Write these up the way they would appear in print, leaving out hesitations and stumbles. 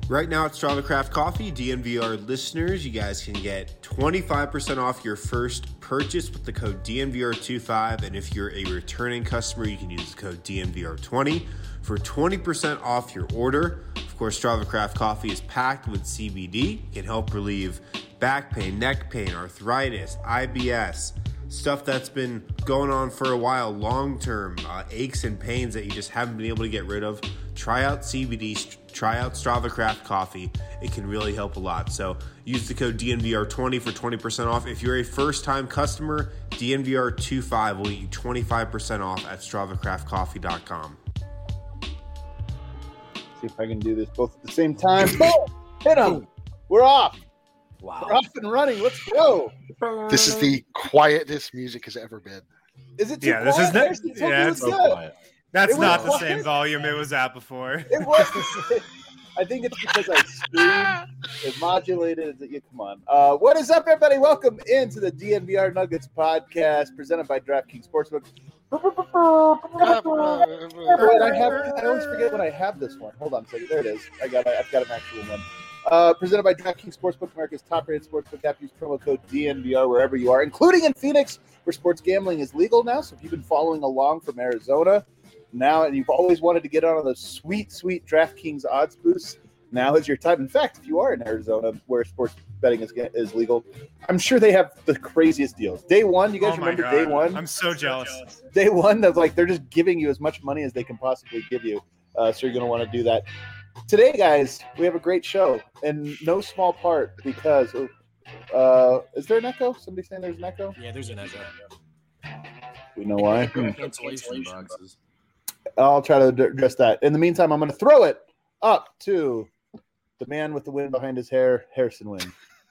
Right now at Strava Craft Coffee, DNVR listeners, you guys can get 25% off your first purchase with the code DNVR25. And if you're a returning customer, you can use the code DNVR20 for 20% off your order. Of course, Strava Craft Coffee is packed with CBD. It can help relieve back pain, neck pain, arthritis, IBS, stuff that's been going on for a while, long-term aches and pains that you just haven't been able to get rid of. Try out CBD, try out Strava Craft Coffee. It can really help a lot. So use the code DNVR20 for 20% off. If you're a first-time customer, DNVR25 will get you 25% off at StravaCraftCoffee.com. See if I can do this both at the same time. Boom! Hit them! We're off! Wow. We're off and running. Let's go! This is the quietest music has ever been. Is it too Yeah, quiet? this is it's So quiet. That's not the quiet. same volume it was at before. It was. I think it's because I screamed. It modulated. Come on. What is up, everybody? Welcome into the DNVR Nuggets podcast presented by DraftKings Sportsbook. I always forget when I have this one. Hold on a second. There it is. I've got an actual one. Presented by DraftKings Sportsbook, America's top-rated sportsbook app. Use promo code DNVR wherever you are, including in Phoenix, where sports gambling is legal now. So if you've been following along from Arizona now and you've always wanted to get on those sweet, sweet DraftKings odds boosts, now is your time. In fact, if you are in Arizona where sports betting is legal, I'm sure they have the craziest deals. Day one, you guys remember day one? I'm so jealous. Day one, that's like they're just giving you as much money as they can possibly give you. So you're going to want to do that. Today, guys, we have a great show, in no small part because is there an echo? Somebody saying there's an echo? Yeah, there's an echo. We know why. Cancellation boxes. I'll try to address that. In the meantime, I'm going to throw it up to the man with the wind behind his hair, Harrison Wynn.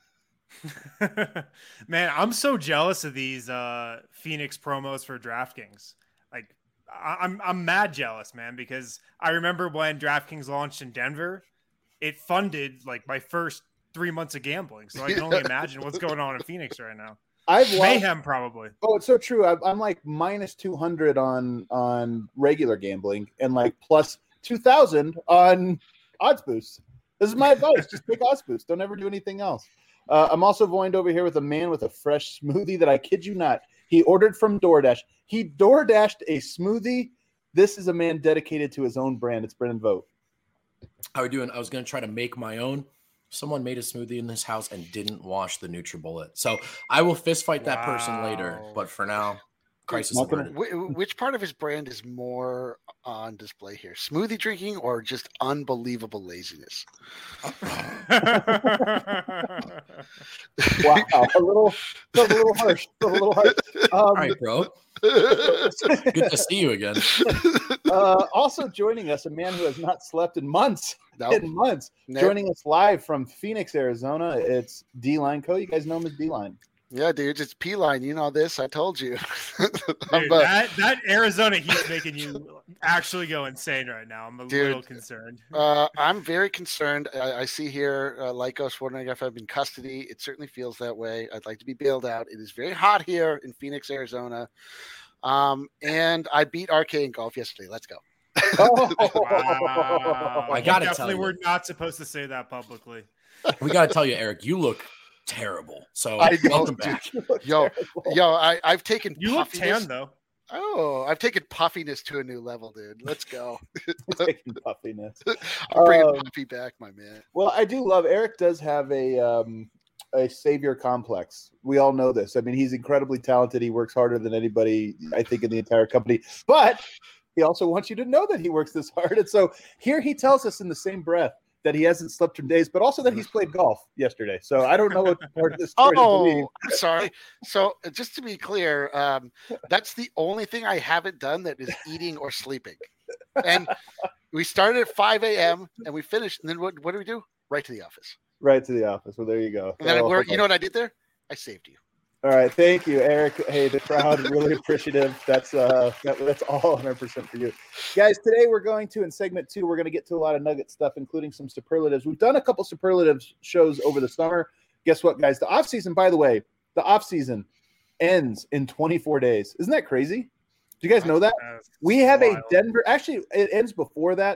Man, I'm so jealous of these Phoenix promos for DraftKings. Like, I'm mad jealous, man, because I remember when DraftKings launched in Denver, it funded like my first 3 months of gambling. So I can only imagine what's going on in Phoenix right now. Mayhem, probably. Oh, it's so true. I'm like minus 200 on regular gambling and like plus 2,000 on odds boosts. This is my advice. Just take odds boosts. Don't ever do anything else. I'm also joined over here with a man with a fresh smoothie that I kid you not, he ordered from DoorDash. He DoorDashed a smoothie. This is a man dedicated to his own brand. It's Brendan Vogt. How are we doing? I was going to try to make my own. Someone made a smoothie in this house and didn't wash the NutriBullet. So I will fist fight that person later. But for now, crisis averted. Which part of his brand is more on display here? Smoothie drinking or just unbelievable laziness? Wow, a little harsh. All right, bro. Good to see you again. Also joining us, a man who has not slept in months. Nope. Joining us live from Phoenix, Arizona. It's D-Line Co. You guys know him as D-Line. Yeah, dude, it's P-Line. You know this. I told you. Dude, that Arizona heat's making you actually go insane right now. I'm a little concerned. I'm very concerned. I see here Lycos wondering if I'm in custody. It certainly feels that way. I'd like to be bailed out. It is very hot here in Phoenix, Arizona. And I beat RK in golf yesterday. Let's go. Oh. Wow. I gotta tell definitely you. we're not supposed to say that publicly. We got to tell you, Eric, you look terrible. So welcome back. Yo, I've taken You look puffiness. tan though. Oh, I've taken puffiness to a new level, dude. Let's go. Taking puffiness. I'm bringing puffy back, my man. Well, I do love Eric does have a savior complex. We all know this. I mean, he's incredibly talented. He works harder than anybody, I think, in the entire company. But he also wants you to know that he works this hard. And so here he tells us in the same breath that he hasn't slept for days, but also that he's played golf yesterday. So I don't know what part of this story to believe. I'm sorry. So just to be clear, that's the only thing I haven't done that is eating or sleeping. And we started at 5 a.m. and we finished. And then what do we do? Right to the office. Right to the office. Well, there you go. And then you know what I did there? I saved you. All right, thank you, Eric. Hey, the crowd really appreciative. That's all 100% for you, guys. Today we're going to in segment 2. We're going to get to a lot of Nugget stuff, including some superlatives. We've done a couple superlatives shows over the summer. Guess what, guys? The off season, by the way, ends in 24 days. Isn't that crazy? Do you guys know that? We have a Denver. Actually, it ends before that.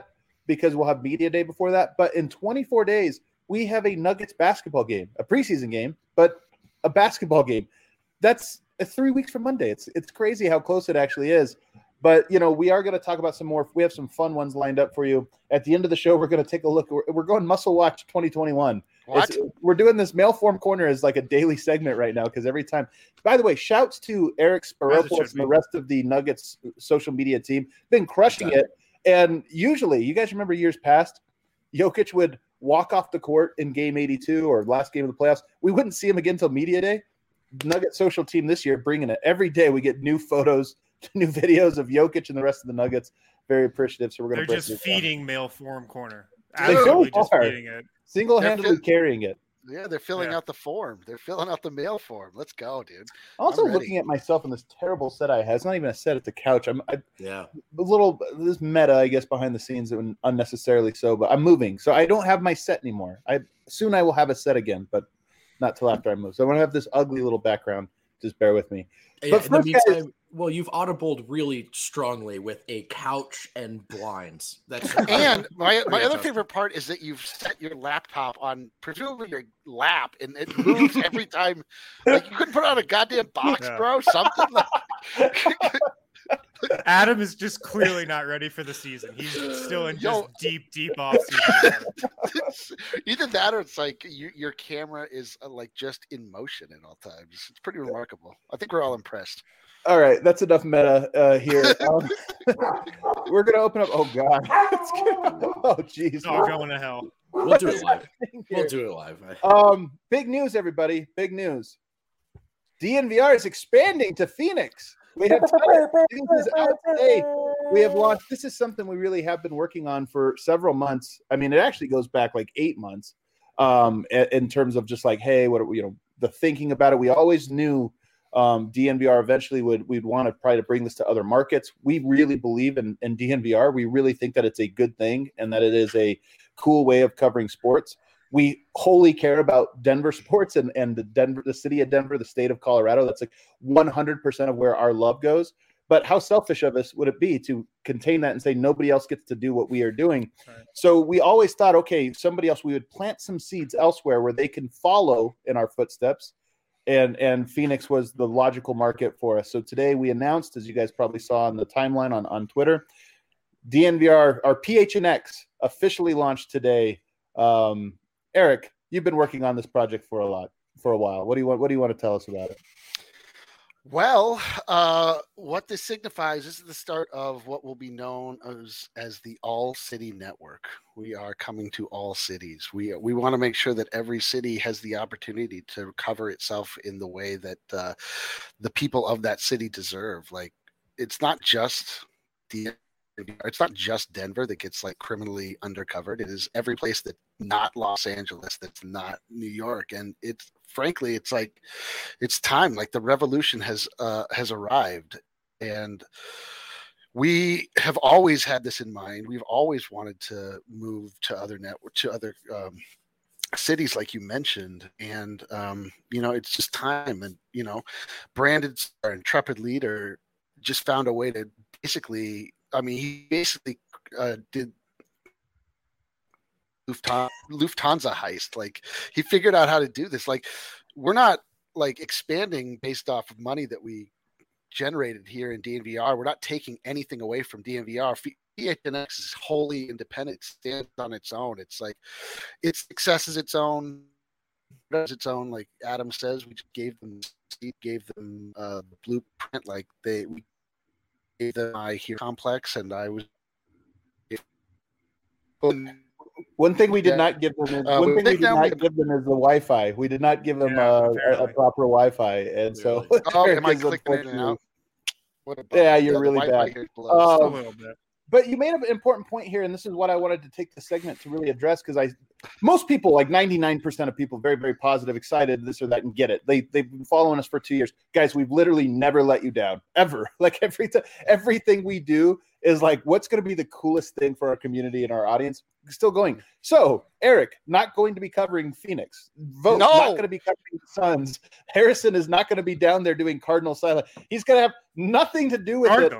because we'll have media day before that. But in 24 days, we have a Nuggets basketball game, a preseason game, but a basketball game. That's 3 weeks from Monday. It's crazy how close it actually is. But, we are going to talk about some more. We have some fun ones lined up for you. At the end of the show, we're going to take a look. We're going Muscle Watch 2021. What? We're doing this Mail Form Corner as like a daily segment right now because every time. By the way, shouts to Eric Sparopoulos and the rest of the Nuggets social media team. Been crushing it. And usually, you guys remember years past, Jokic would walk off the court in game 82 or last game of the playoffs. We wouldn't see him again until media day. Nugget social team this year bringing it. Every day we get new photos, new videos of Jokic and the rest of the Nuggets. Very appreciative. So we're going to. They're just feeding Mail Form Corner. They Absolutely so just are. feeding it. Single-handedly carrying it. Yeah, they're filling out the form. They're filling out the mail form. Let's go, dude. Also looking at myself in this terrible set I have. It's not even a set; it's a couch. A little this meta, I guess, behind the scenes, unnecessarily so. But I'm moving, so I don't have my set anymore. Soon I will have a set again, but not till after I move. So I'm gonna have this ugly little background. Just bear with me. Yeah, but in the meantime, well, you've audibled really strongly with a couch and blinds. That's and my other favorite part is that you've set your laptop on presumably your lap, and it moves every time. Like you couldn't put it on a goddamn box, bro. Something like. Adam is just clearly not ready for the season. He's still in just deep off season. Either that or it's like your camera is like just in motion at all times. It's pretty remarkable. I think we're all impressed. All right, that's enough meta here. We're gonna open up. Oh God! Oh jeez! Oh, going to hell. We'll do it live. Big news, everybody! Big news. DNVR is expanding to Phoenix. We have out today. We have launched. This is something we really have been working on for several months. I mean, it actually goes back like 8 months. In terms of just like, hey, what the thinking about it. We always knew DNVR eventually we'd want to try to bring this to other markets. We really believe in DNVR. We really think that it's a good thing and that it is a cool way of covering sports. We wholly care about Denver sports and the city of Denver, the state of Colorado. That's like 100% of where our love goes. But how selfish of us would it be to contain that and say nobody else gets to do what we are doing? Right. So we always thought, okay, somebody else, we would plant some seeds elsewhere where they can follow in our footsteps. And Phoenix was the logical market for us. So today we announced, as you guys probably saw on the timeline on Twitter, DNVR, our PHNX officially launched today. Eric, you've been working on this project for a while. What do you want to tell us about it? Well, what this signifies, this is the start of what will be known as the All City Network. We are coming to all cities. We want to make sure that every city has the opportunity to cover itself in the way that the people of that city deserve. Like, it's not just Denver that gets like criminally undercovered. It is every place that's not Los Angeles, that's not New York. And it's frankly, it's like, it's time. Like the revolution has arrived, and we have always had this in mind. We've always wanted to move to other cities, like you mentioned. And, it's just time. And, Brandon, our intrepid leader, just found a way to basically, he basically did Lufthansa heist. Like, he figured out how to do this. Like, we're not like expanding based off of money that we generated here in DNVR. We're not taking anything away from DNVR. PHNX is wholly independent. It stands on its own. It's like its success is its own. Does its own. Like Adam says, we just gave them the blueprint. Like we gave them my Hero complex, and I was. One thing we did not give them is the Wi-Fi. We did not give them a proper Wi-Fi, and so. Am I clicking in and out? Yeah, you're really bad. A little bit. But you made an important point here, and this is what I wanted to take the segment to really address, because most people, like 99% of people, very, very positive, excited, this or that, and get it. They've been following us for 2 years. Guys, we've literally never let you down, ever. Like everything we do is like, what's going to be the coolest thing for our community and our audience? Still going. So, Eric, not going to be covering Phoenix. Vogt, not going to be covering the Suns. Harrison is not going to be down there doing Cardinal silent. He's going to have nothing to do with Cardinals.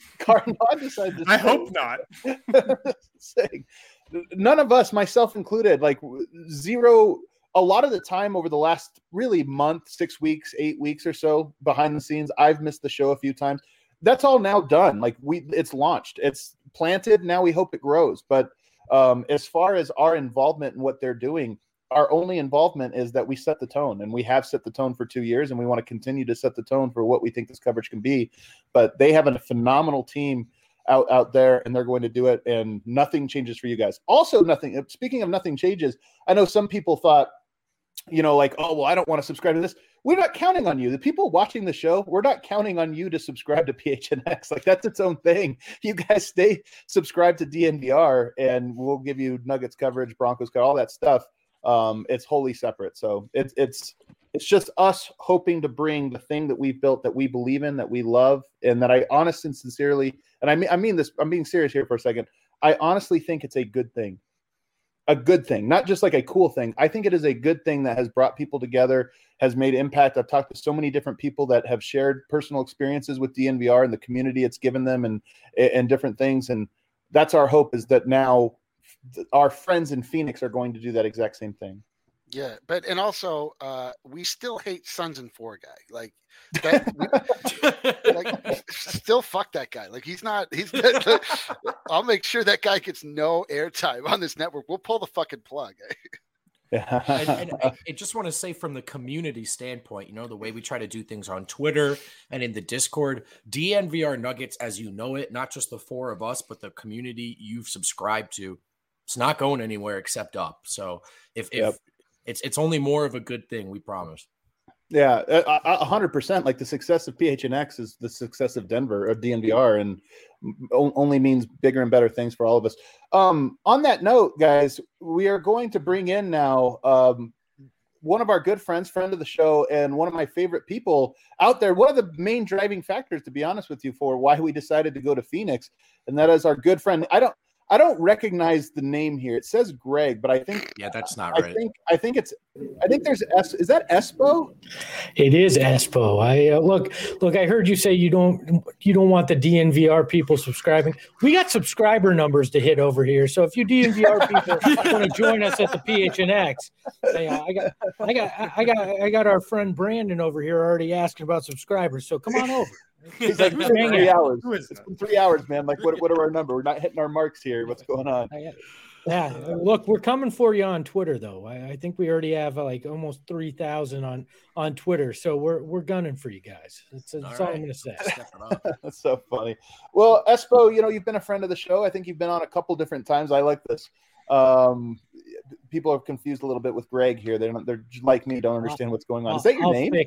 Cardinal, I decided to I say- hope not. saying, none of us, myself included, like zero. A lot of the time over the last really month, 6 weeks, 8 weeks or so behind the scenes, I've missed the show a few times. That's all now done. Like it's launched, it's planted. Now we hope it grows. But as far as our involvement in what they're doing, our only involvement is that we set the tone, and we have set the tone for 2 years, and we want to continue to set the tone for what we think this coverage can be. But they have a phenomenal team out there, and they're going to do it, and nothing changes for you guys. Also, nothing. Speaking of nothing changes, I know some people thought, like, oh, well, I don't want to subscribe to this. We're not counting on you. The people watching the show, we're not counting on you to subscribe to PHNX. Like, that's its own thing. You guys stay subscribed to DNVR, and we'll give you Nuggets coverage, Broncos coverage, all that stuff. It's wholly separate. So it's just us hoping to bring the thing that we've built, that we believe in, that we love, and that I honestly and sincerely, and I mean this, I'm being serious here for a second. I honestly think it's a good thing. A good thing, not just like a cool thing. I think it is a good thing that has brought people together, has made impact. I've talked to so many different people that have shared personal experiences with DNVR and the community it's given them, and different things. And that's our hope, is that now our friends in Phoenix are going to do that exact same thing. Yeah, and also we still hate Sons and Four guy. Like that, like still fuck that guy. Like he's I'll make sure that guy gets no airtime on this network. We'll pull the fucking plug. And I just want to say, from the community standpoint, the way we try to do things on Twitter and in the Discord, DNVR Nuggets, as you know it, not just the four of us, but the community you've subscribed to, it's not going anywhere except up. So if it's only more of a good thing, we promise. Yeah, 100%. Like the success of PHNX is the success of Denver or DNVR, and only means bigger and better things for all of us. On that note, guys, we are going to bring in now one of our good friends, friend of the show, and one of my favorite people out there. One of the main driving factors, to be honest with you, for why we decided to go to Phoenix, and that is our good friend. I don't recognize the name here. It says Greg, but I think that's not right. I think there's is that Espo? It is Espo. I look. I heard you say you don't want the DNVR people subscribing. We got subscriber numbers to hit over here. So if you DNVR people want to join us at the PHNX, I got our friend Brandon over here already asking about subscribers. So come on over. He's like, it's been 3 hours. It's been 3 hours, man. Like, what are our number? We're not hitting our marks here. What's going on? Yeah. Look, we're coming for you on Twitter, though. I think we already have like almost 3,000 on Twitter. So we're gunning for you guys. That's all I'm going to say. That's so funny. Well, Espo, you've been a friend of the show. I think you've been on a couple different times. I like this. People are confused a little bit with Greg here. They're like me, don't understand what's going on. Is that your name?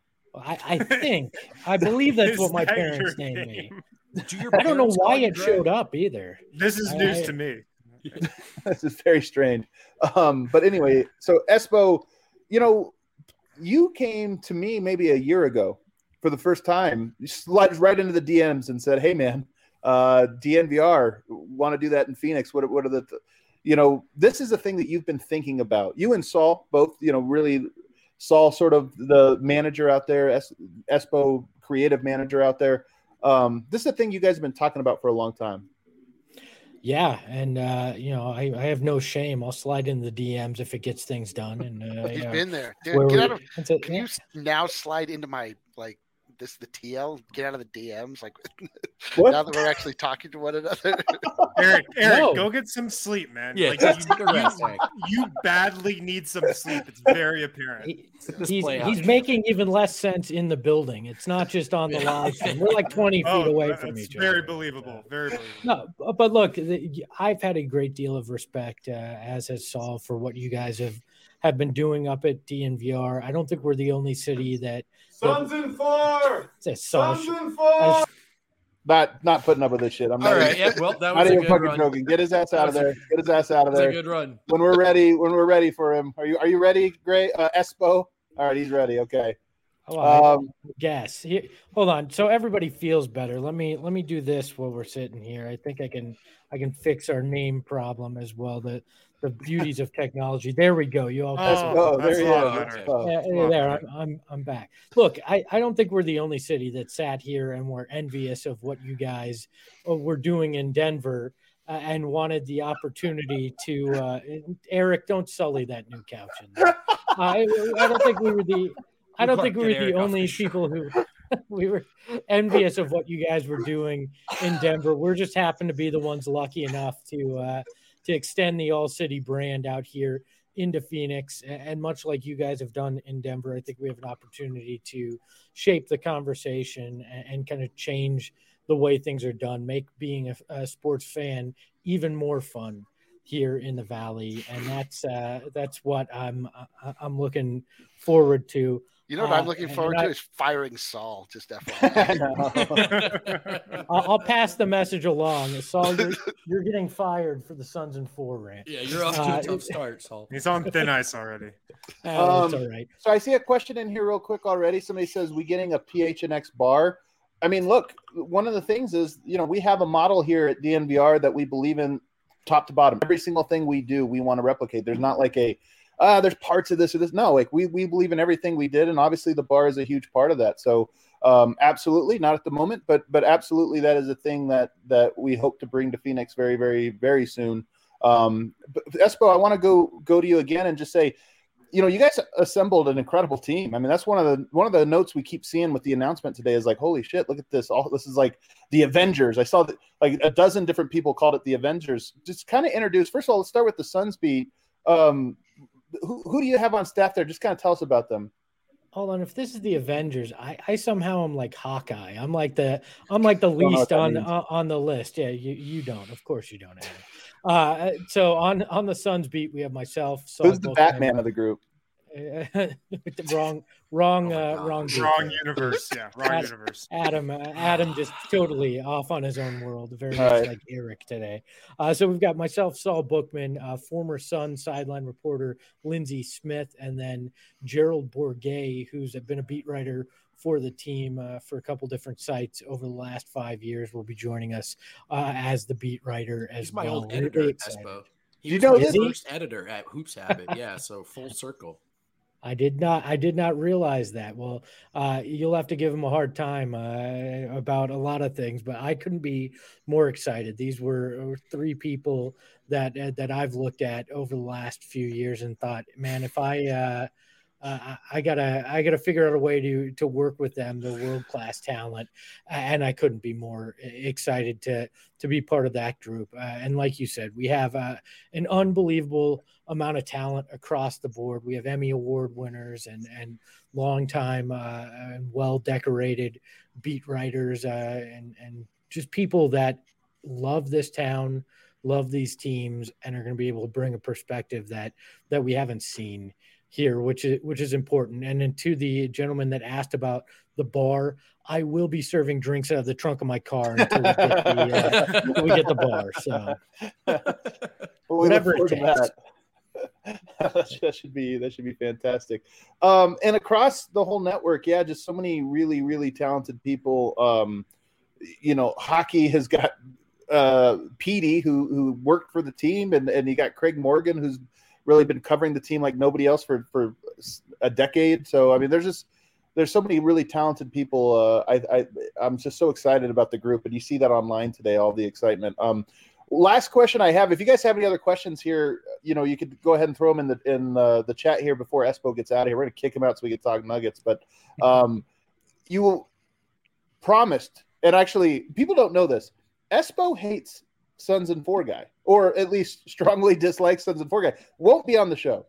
I believe that's what my parents named me. I don't know why it showed up either. This is news to me. This is very strange. But anyway, so Espo, you came to me maybe a year ago for the first time. You slid right into the DMs and said, "Hey, man, DNVR, want to do that in Phoenix? What are the this is a thing that you've been thinking about. You and Saul both, really." Saul, sort of the manager out there, Espo, creative manager out there. This is a thing you guys have been talking about for a long time. Yeah, and I have no shame. I'll slide in the DMs if it gets things done. And he's been there. Dude, can you now slide into my the TL? Get out of the DMs, now that we're actually talking to one another. Eric, go get some sleep, man. Yeah, you badly need some sleep. It's very apparent. He's making even less sense in the building. It's not just on the live stream. We're like 20 feet away from each other. Very believable. Very believable. No, but look, I've had a great deal of respect, as has Saul, for what you guys have been doing up at DNVR. I don't think we're the only city that Sons and Four. Sons and Four. Not putting up with this shit. I'm not. All right. Yeah. Well, that was not a even good fucking run. joking. Get his ass out of there. Get his ass out of there. That's a good run. When we're ready for him. Are you ready, Gray? Espo? All right, he's ready. Okay. Yes. Hold on. So everybody feels better. Let me do this while we're sitting here. I think I can fix our name problem as well. The the beauties of technology. There we go. You all. There he is. There, I'm back. Look, I don't think we're the only city that sat here and were envious of what you guys were doing in Denver and wanted the opportunity to. Eric, don't sully that new couch in there. I don't think we were the. I don't think we were the only people who. We were envious of what you guys were doing in Denver. We're just happened to be the ones lucky enough to extend the All City brand out here into Phoenix. And much like you guys have done in Denver, I think we have an opportunity to shape the conversation and kind of change the way things are done, make being a sports fan even more fun here in the Valley. And that's what I'm looking forward to. You know what I'm looking forward to is firing Saul. Just FYI. I'll pass the message along. Saul, you're getting fired for the Suns and 4 rant. Yeah, you're off to a tough start, Saul. He's on thin ice already. That's all right. So I see a question in here real quick already. Somebody says, we getting a PHNX bar? I mean, look, one of the things is, we have a model here at DNVR that we believe in top to bottom. Every single thing we do, we want to replicate. There's not like there's parts of this or this. No, like we believe in everything we did, and obviously the bar is a huge part of that. So absolutely, not at the moment, but absolutely that is a thing that we hope to bring to Phoenix very, very, very soon. But Espo, I want to go to you again and just say, you guys assembled an incredible team. I mean, that's one of the notes we keep seeing with the announcement today is like, holy shit, look at this. This is like the Avengers. I saw that like a dozen different people called it the Avengers. Just kind of introduce. First of all, let's start with the Suns beat. Who do you have on staff there? Just kind of tell us about them. Hold on. If this is the Avengers, I somehow am like Hawkeye. I'm like the least on the list. Yeah, you don't. Of course you don't. So on the Suns beat, we have myself. Who's the Batman of the group? wrong universe. Yeah, wrong universe. Adam just totally off on his own world, very much like Eric today. So we've got myself, Saul Bookman, former Sun sideline reporter Lindsey Smith, and then Gerald Bourget, who's been a beat writer for the team for a couple different sites over the last 5 years, will be joining us as the beat writer as well. He's my old editor at Espo. He was my first editor at Hoops Habit. Yeah, so full circle. I did not realize that. Well, you'll have to give him a hard time about a lot of things, but I couldn't be more excited. These were 3 people that I've looked at over the last few years and thought, man, if I gotta figure out a way to work with them. They're world-class talent, and I couldn't be more excited to be part of that group. And like you said, we have an unbelievable amount of talent across the board. We have Emmy Award winners and longtime and well-decorated beat writers and just people that love this town, love these teams, and are going to be able to bring a perspective that we haven't seen here, which is important. And then to the gentleman that asked about the bar, I will be serving drinks out of the trunk of my car until we get the bar. So whatever it takes. That should be fantastic. And across the whole network, just so many really, really talented people. Hockey has got Petey who worked for the team, and you got Craig Morgan, who's really been covering the team like nobody else for a decade. So, I mean, there's so many really talented people. I'm just so excited about the group, and you see that online today, all the excitement. Last question I have, if you guys have any other questions here, you could go ahead and throw them in the chat here before Espo gets out of here. We're going to kick him out so we can talk Nuggets, but you promised, and actually people don't know this, Espo hates Suns and 4 guy, or at least strongly dislikes Suns and 4 guy. Won't be on the show.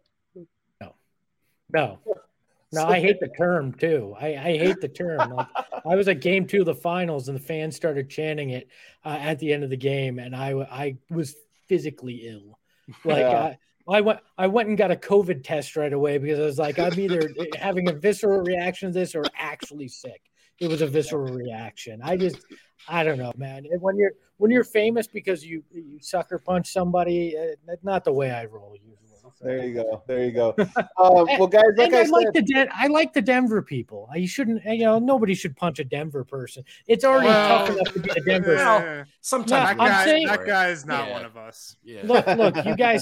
No, I hate the term too. I hate the term. Like, I was at game 2 of the finals, and the fans started chanting it at the end of the game, and I was physically ill. Like I went and got a COVID test right away because I was like, I'm either having a visceral reaction to this or actually sick. It was a visceral reaction. I don't know, man. When you're famous because you sucker punch somebody, that's not the way I roll usually. There you go. Well, guys, I like the Denver people. You shouldn't, nobody should punch a Denver person. It's already tough enough to be a Denver. Sometimes that guy is not one of us. Yeah. Look, you guys.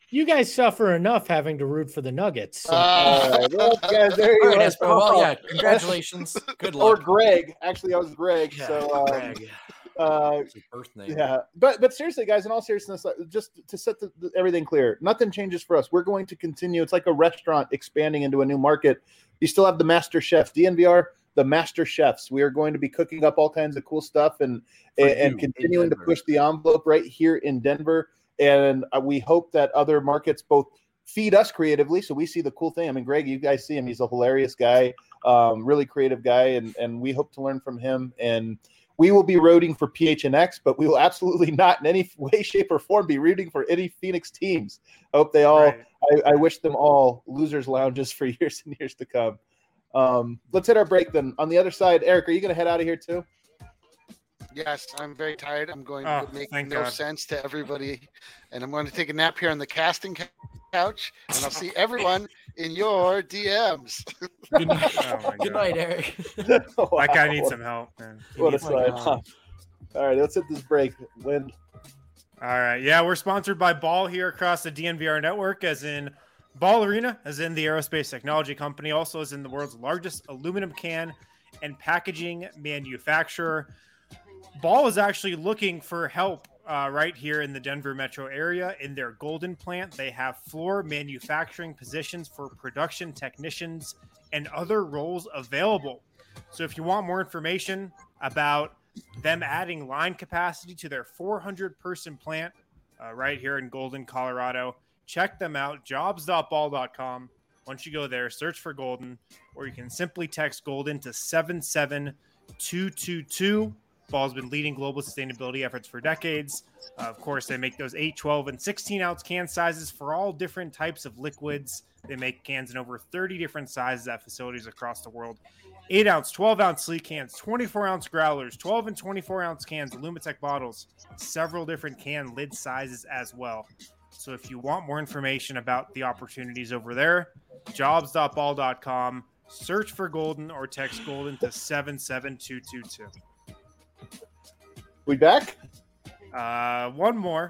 You guys suffer enough having to root for the Nuggets. So. All right, well, guys, there you All right, go. Espo. Well, yeah, congratulations. Good Or luck. Greg. Actually, I was Greg. Yeah, So, Greg. It's his birth name. yeah, but seriously, guys, in all seriousness, just to set everything clear, nothing changes for us. We're going to continue. It's like a restaurant expanding into a new market. You still have the master chefs, DNVR, the master chefs. We are going to be cooking up all kinds of cool stuff and continuing to push the envelope right here in Denver. And we hope that other markets both feed us creatively, so we see the cool thing. I mean, Greg, you guys see him; he's a hilarious guy, really creative guy, and we hope to learn from him. And we will be rooting for PHNX, but we will absolutely not in any way, shape, or form be rooting for any Phoenix teams. I hope they all. Right. I wish them all losers' lounges for years and years to come. Let's hit our break then. On the other side, Eric, are you going to head out of here too? Yes, I'm very tired. I'm going to make no sense to everybody, and I'm going to take a nap here on the casting couch, and I'll see everyone in your DMs. Good night, Good night, Eric. Wow. That guy needs some help, man. What a slide. All right, let's hit this break. Wind. All right, yeah, we're sponsored by Ball here across the DNVR network, as in Ball Arena, as in the aerospace technology company, also as in the world's largest aluminum can and packaging manufacturer. Ball is actually looking for help right here in the Denver metro area in their Golden plant. They have floor manufacturing positions for production technicians and other roles available. So if you want more information about them adding line capacity to their 400-person plant right here in Golden, Colorado, check them out, jobs.ball.com. Once you go there, search for Golden, or you can simply text Golden to 77222. Ball's been leading global sustainability efforts for decades. Of course, they make those 8, 12, and 16-ounce can sizes for all different types of liquids. They make cans in over 30 different sizes at facilities across the world. 8-ounce, 12-ounce sleek cans, 24-ounce growlers, 12 and 24-ounce cans, Lumitech bottles, several different can lid sizes as well. So if you want more information about the opportunities over there, jobs.ball.com, search for Golden or text Golden to 77222. We back? One more.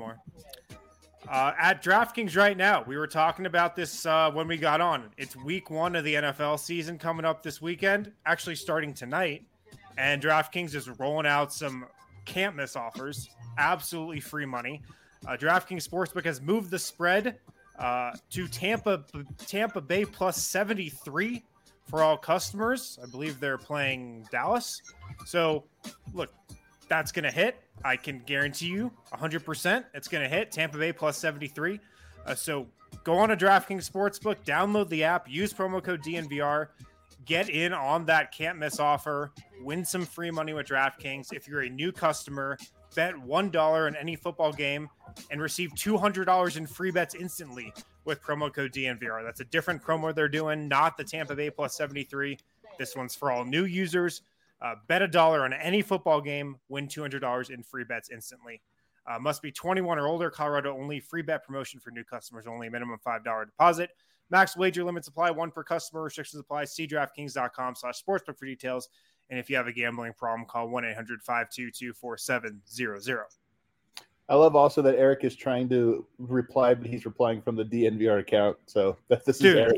At DraftKings right now, we were talking about this when we got on. It's week 1 of the NFL season coming up this weekend, actually starting tonight. And DraftKings is rolling out some can't miss offers, absolutely free money. DraftKings Sportsbook has moved the spread to Tampa Bay plus 73 for all customers. I believe they're playing Dallas. So, look, that's going to hit. I can guarantee you 100% it's going to hit. Tampa Bay plus 73. So go on to DraftKings Sportsbook, download the app, use promo code DNVR, get in on that can't miss offer, win some free money with DraftKings. If you're a new customer, bet $1 on any football game and receive $200 in free bets instantly with promo code DNVR. That's a different promo they're doing, not the Tampa Bay plus 73. This one's for all new users. Bet $1 on any football game, win $200 in free bets instantly. Must be 21 or older, Colorado only, free bet promotion for new customers only, minimum $5 deposit. Max wager limits apply, 1 per customer, restrictions apply. See DraftKings.com/sportsbook for details. And if you have a gambling problem, call 1-800-522-4700. I love also that Eric is trying to reply, but he's replying from the DNVR account. So this is Eric.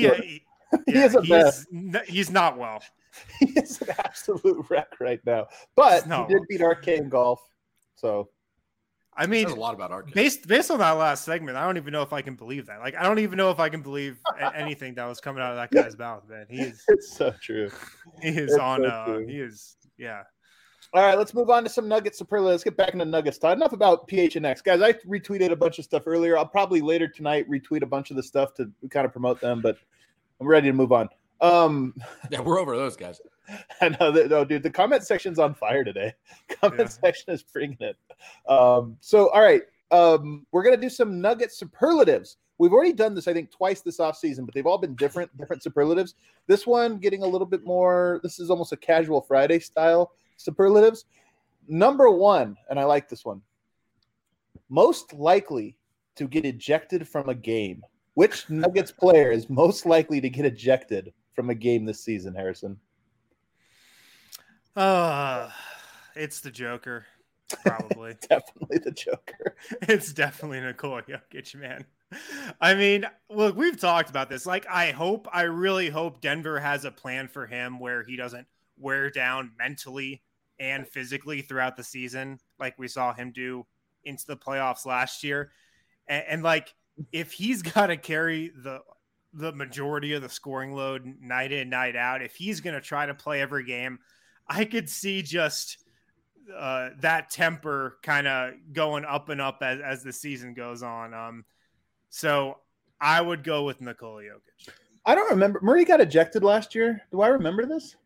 He's not well. He is an absolute wreck right now. But he did beat Arcade in golf. So, I mean, a lot about Arcade. Based on that last segment, I don't even know if I can believe that. Like, I don't even know if I can believe anything that was coming out of that guy's mouth, man. It's so true. He is yeah. All right, let's move on to some Nuggets superlatives. Let's get back into Nuggets talk. Enough about PHNX. Guys, I retweeted a bunch of stuff earlier. I'll probably later tonight retweet a bunch of the stuff to kind of promote them, but I'm ready to move on. Yeah, we're over those guys. I know that. No, dude, the comment section's on fire today. Section is bringing it. All right, we're gonna do some Nuggets superlatives. We've already done this, I think, twice this offseason, but they've all been different superlatives. This one getting a little bit more. This is almost a casual Friday style superlatives. Number 1, and I like this one. Most likely to get ejected from a game. Which Nuggets player is most likely to get ejected from a game this season, Harrison? It's the Joker. Probably. Definitely the Joker. It's definitely Nikola Jokic, man. I mean, look, we've talked about this. Like, I really hope Denver has a plan for him where he doesn't wear down mentally and physically throughout the season, like we saw him do into the playoffs last year. And like, if he's got to carry the majority of the scoring load night in, night out, if he's going to try to play every game, I could see just that temper kind of going up and up as the season goes on. So I would go with Nikola Jokic. I don't remember. Murray got ejected last year. Do I remember this?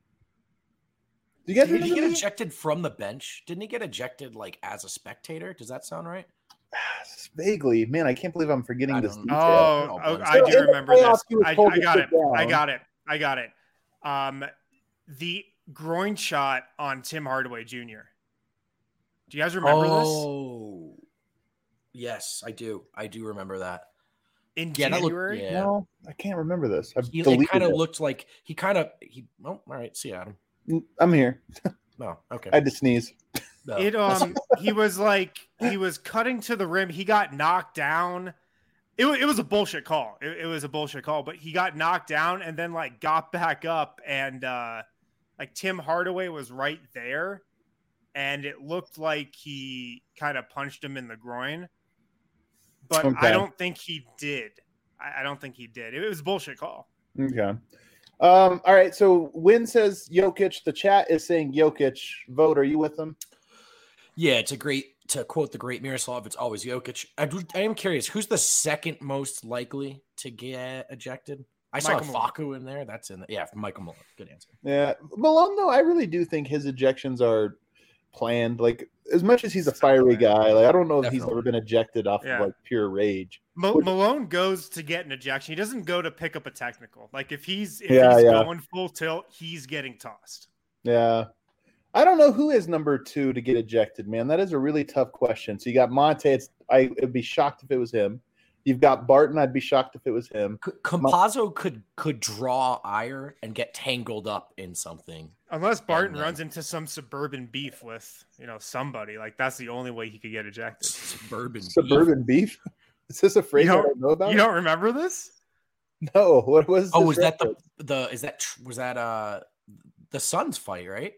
Do you guys Did he get remember ejected from the bench? Didn't he get ejected like as a spectator? Does that sound right? Vaguely, man, I can't believe I'm forgetting this detail. I do remember this. I got it. The groin shot on Tim Hardaway Jr. Do you guys remember this? Oh, yes, I do. I do remember that. In January? Yeah. No, I can't remember this. It kind of looked like he. Oh, all right. See, Adam. I'm here. No, okay. I had to sneeze. No. He was cutting to the rim. He got knocked down. It was a bullshit call. It was a bullshit call, but he got knocked down and then like got back up and like Tim Hardaway was right there and it looked like he kind of punched him in the groin. But okay. I don't think he did. I don't think he did. It was a bullshit call. Okay. All right. So Win says Jokic. The chat is saying Jokic. Vote. Are you with them? Yeah, to quote the great Miroslav, it's always Jokic. I am curious, who's the second most likely to get ejected? I saw Facu in there. That's in there. Yeah, Michael Malone. Good answer. Yeah. Malone, though, I really do think his ejections are planned. Like, as much as he's a fiery guy, like I don't know if he's ever been ejected off of like pure rage. Malone goes to get an ejection. He doesn't go to pick up a technical. Like if he's going full tilt, he's getting tossed. Yeah. I don't know who is number 2 to get ejected, man. That is a really tough question. So you got Monte. I'd be shocked if it was him. You've got Barton. I'd be shocked if it was him. Campazzo could draw ire and get tangled up in something. Unless Barton runs into some suburban beef with, somebody. Like that's the only way he could get ejected. Suburban beef? Is this a phrase I don't know about? You don't remember this? No. What was? Oh, was that was that the Suns fight, right?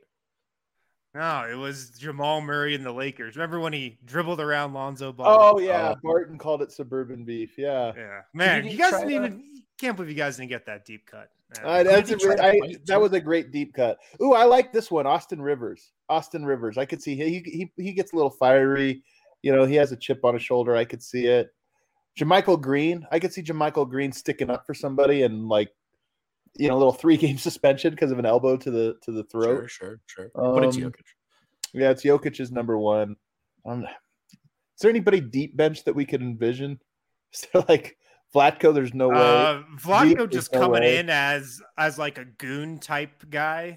No, it was Jamal Murray and the Lakers. Remember when he dribbled around Lonzo Ball? Oh yeah, Barton called it suburban beef. Yeah, man, you guys can't believe you guys didn't get that deep cut. That was a great deep cut. Ooh, I like this one, Austin Rivers. I could see he gets a little fiery. He has a chip on his shoulder. I could see it. JaMychal Green. I could see JaMychal Green sticking up for somebody and a little 3-game suspension because of an elbow to the throat. Sure. But it's Jokic. Yeah, it's Jokic's number 1. Is there anybody deep bench that we could envision? So like Vlatko, there's no way. Vlatko just coming in as like a goon type guy.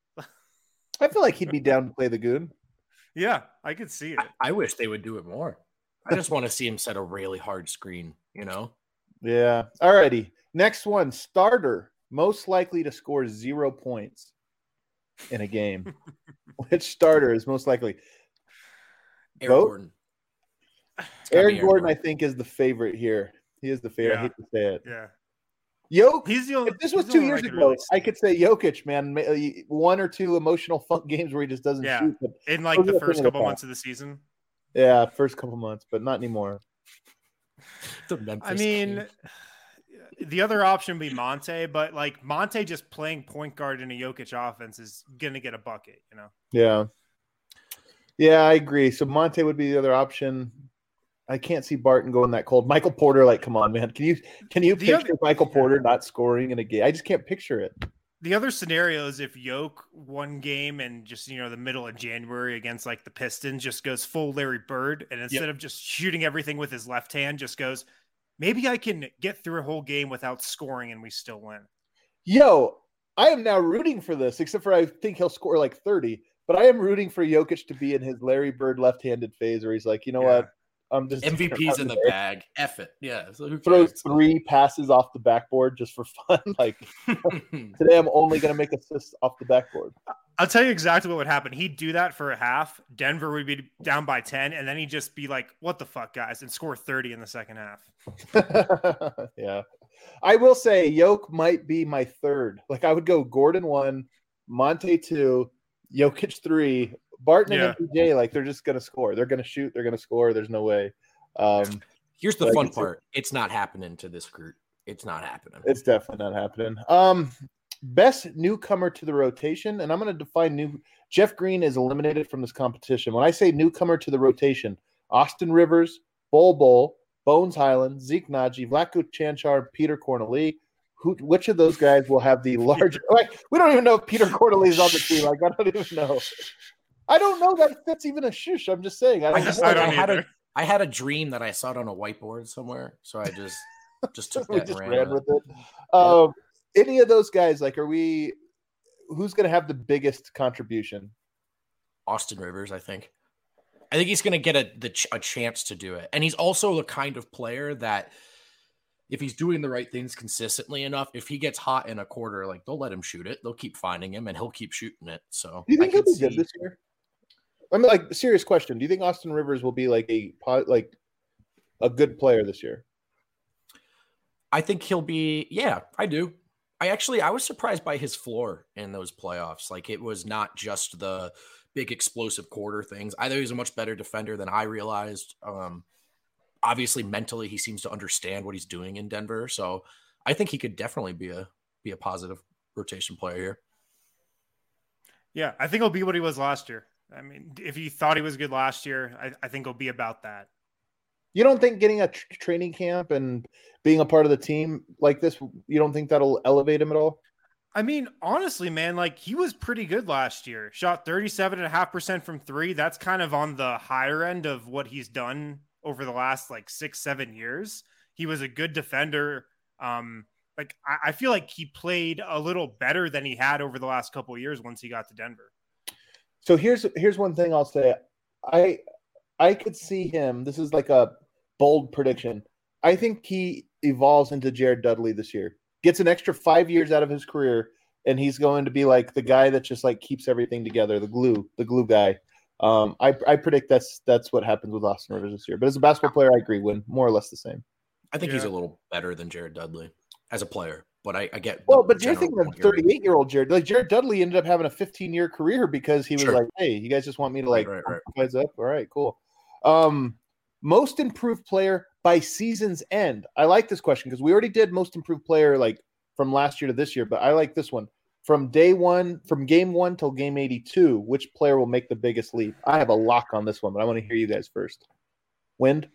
I feel like he'd be down to play the goon. Yeah, I could see it. I wish they would do it more. I just want to see him set a really hard screen, Yeah. All righty. Next one, starter. Most likely to score 0 points in a game. Which starter is most likely? Aaron Gordon. Aaron Gordon, I think, is the favorite here. He is the favorite. Yeah. I hate to say it. Yeah. Jokic. If this was 2 years ago, I could say Jokic, man. 1 or 2 emotional funk games where he just doesn't shoot. But in like the first couple months of the season. Yeah, first couple months, but not anymore. I mean, the other option would be Monte, but like Monte just playing point guard in a Jokic offense is gonna get a bucket, Yeah, I agree. So Monte would be the other option. I can't see Barton going that cold. Michael Porter, come on, man. Can you picture Michael Porter not scoring in a game? I just can't picture it. The other scenario is if Jokic one game and just the middle of January against like the Pistons just goes full Larry Bird, and instead of just shooting everything with his left hand, just goes, maybe I can get through a whole game without scoring and we still win. Yo, I am now rooting for this, except for I think he'll score like 30. But I am rooting for Jokic to be in his Larry Bird left-handed phase where he's like, what? I'm just MVP's in the bag. F it. Yeah. So throws 3 passes off the backboard just for fun. Like today I'm only going to make assists off the backboard. I'll tell you exactly what would happen. He'd do that for a half. Denver would be down by 10, and then he'd just be like, what the fuck, guys, and score 30 in the second half. Yeah. I will say Yoke might be my third. Like I would go Gordon 1, Monte 2, Jokic 3, Barton and MPJ. Like they're just going to score. They're going to shoot. They're going to score. There's no way. Here's the fun part. It's not happening to this group. It's not happening. It's definitely not happening. Best newcomer to the rotation, and I'm going to define new. Jeff Green is eliminated from this competition. When I say newcomer to the rotation, Austin Rivers, Bol, Bones Highland, Zeke Naji, Vlatko Cancar, Peter Corneli. Which of those guys will have the larger? Like, we don't even know if Peter Corneli is on the team. Like, I don't even know. I don't know that fits even a shush. I'm just saying. I had a dream that I saw it on a whiteboard somewhere, so I just took that and ran with it. Any of those guys, like, who's going to have the biggest contribution? Austin Rivers, I think. I think he's going to get a chance to do it. And he's also the kind of player that if he's doing the right things consistently enough, if he gets hot in a quarter, like they'll let him shoot it. They'll keep finding him and he'll keep shooting it. So do you think he'll be good this year? I mean, like, serious question. Do you think Austin Rivers will be like a good player this year? I think he'll be, yeah, I do. I was surprised by his floor in those playoffs. Like it was not just the big explosive quarter things. I thought he was a much better defender than I realized. Obviously mentally he seems to understand what he's doing in Denver. So I think he could definitely be a positive rotation player here. Yeah. I think he'll be what he was last year. I mean, if he thought he was good last year, I think he'll be about that. You don't think getting a training camp and being a part of the team like this, you don't think that'll elevate him at all? I mean, honestly, man, like he was pretty good last year. Shot 37.5% from three. That's kind of on the higher end of what he's done over the last like 6-7 years. He was a good defender. I feel like he played a little better than he had over the last couple of years once he got to Denver. So here's one thing I'll say. I could see him. This is like a bold prediction. I think he evolves into Jared Dudley this year. Gets an extra 5 years out of his career, and he's going to be like the guy that just like keeps everything together, the glue guy. I predict that's what happens with Austin Rivers this year. But as a basketball player, I agree, Win more or less the same. I think he's a little better than Jared Dudley as a player, but I get. Well, but you're thinking of 38-year-old Jared. Like Jared Dudley ended up having a 15-year career because he was like, "Hey, you guys just want me to like guys up? All right, cool." Most improved player by season's end. I like this question because we already did most improved player like from last year to this year, but I like this one. From game 1 till game 82, which player will make the biggest leap? I have a lock on this one, but I want to hear you guys first. Wind?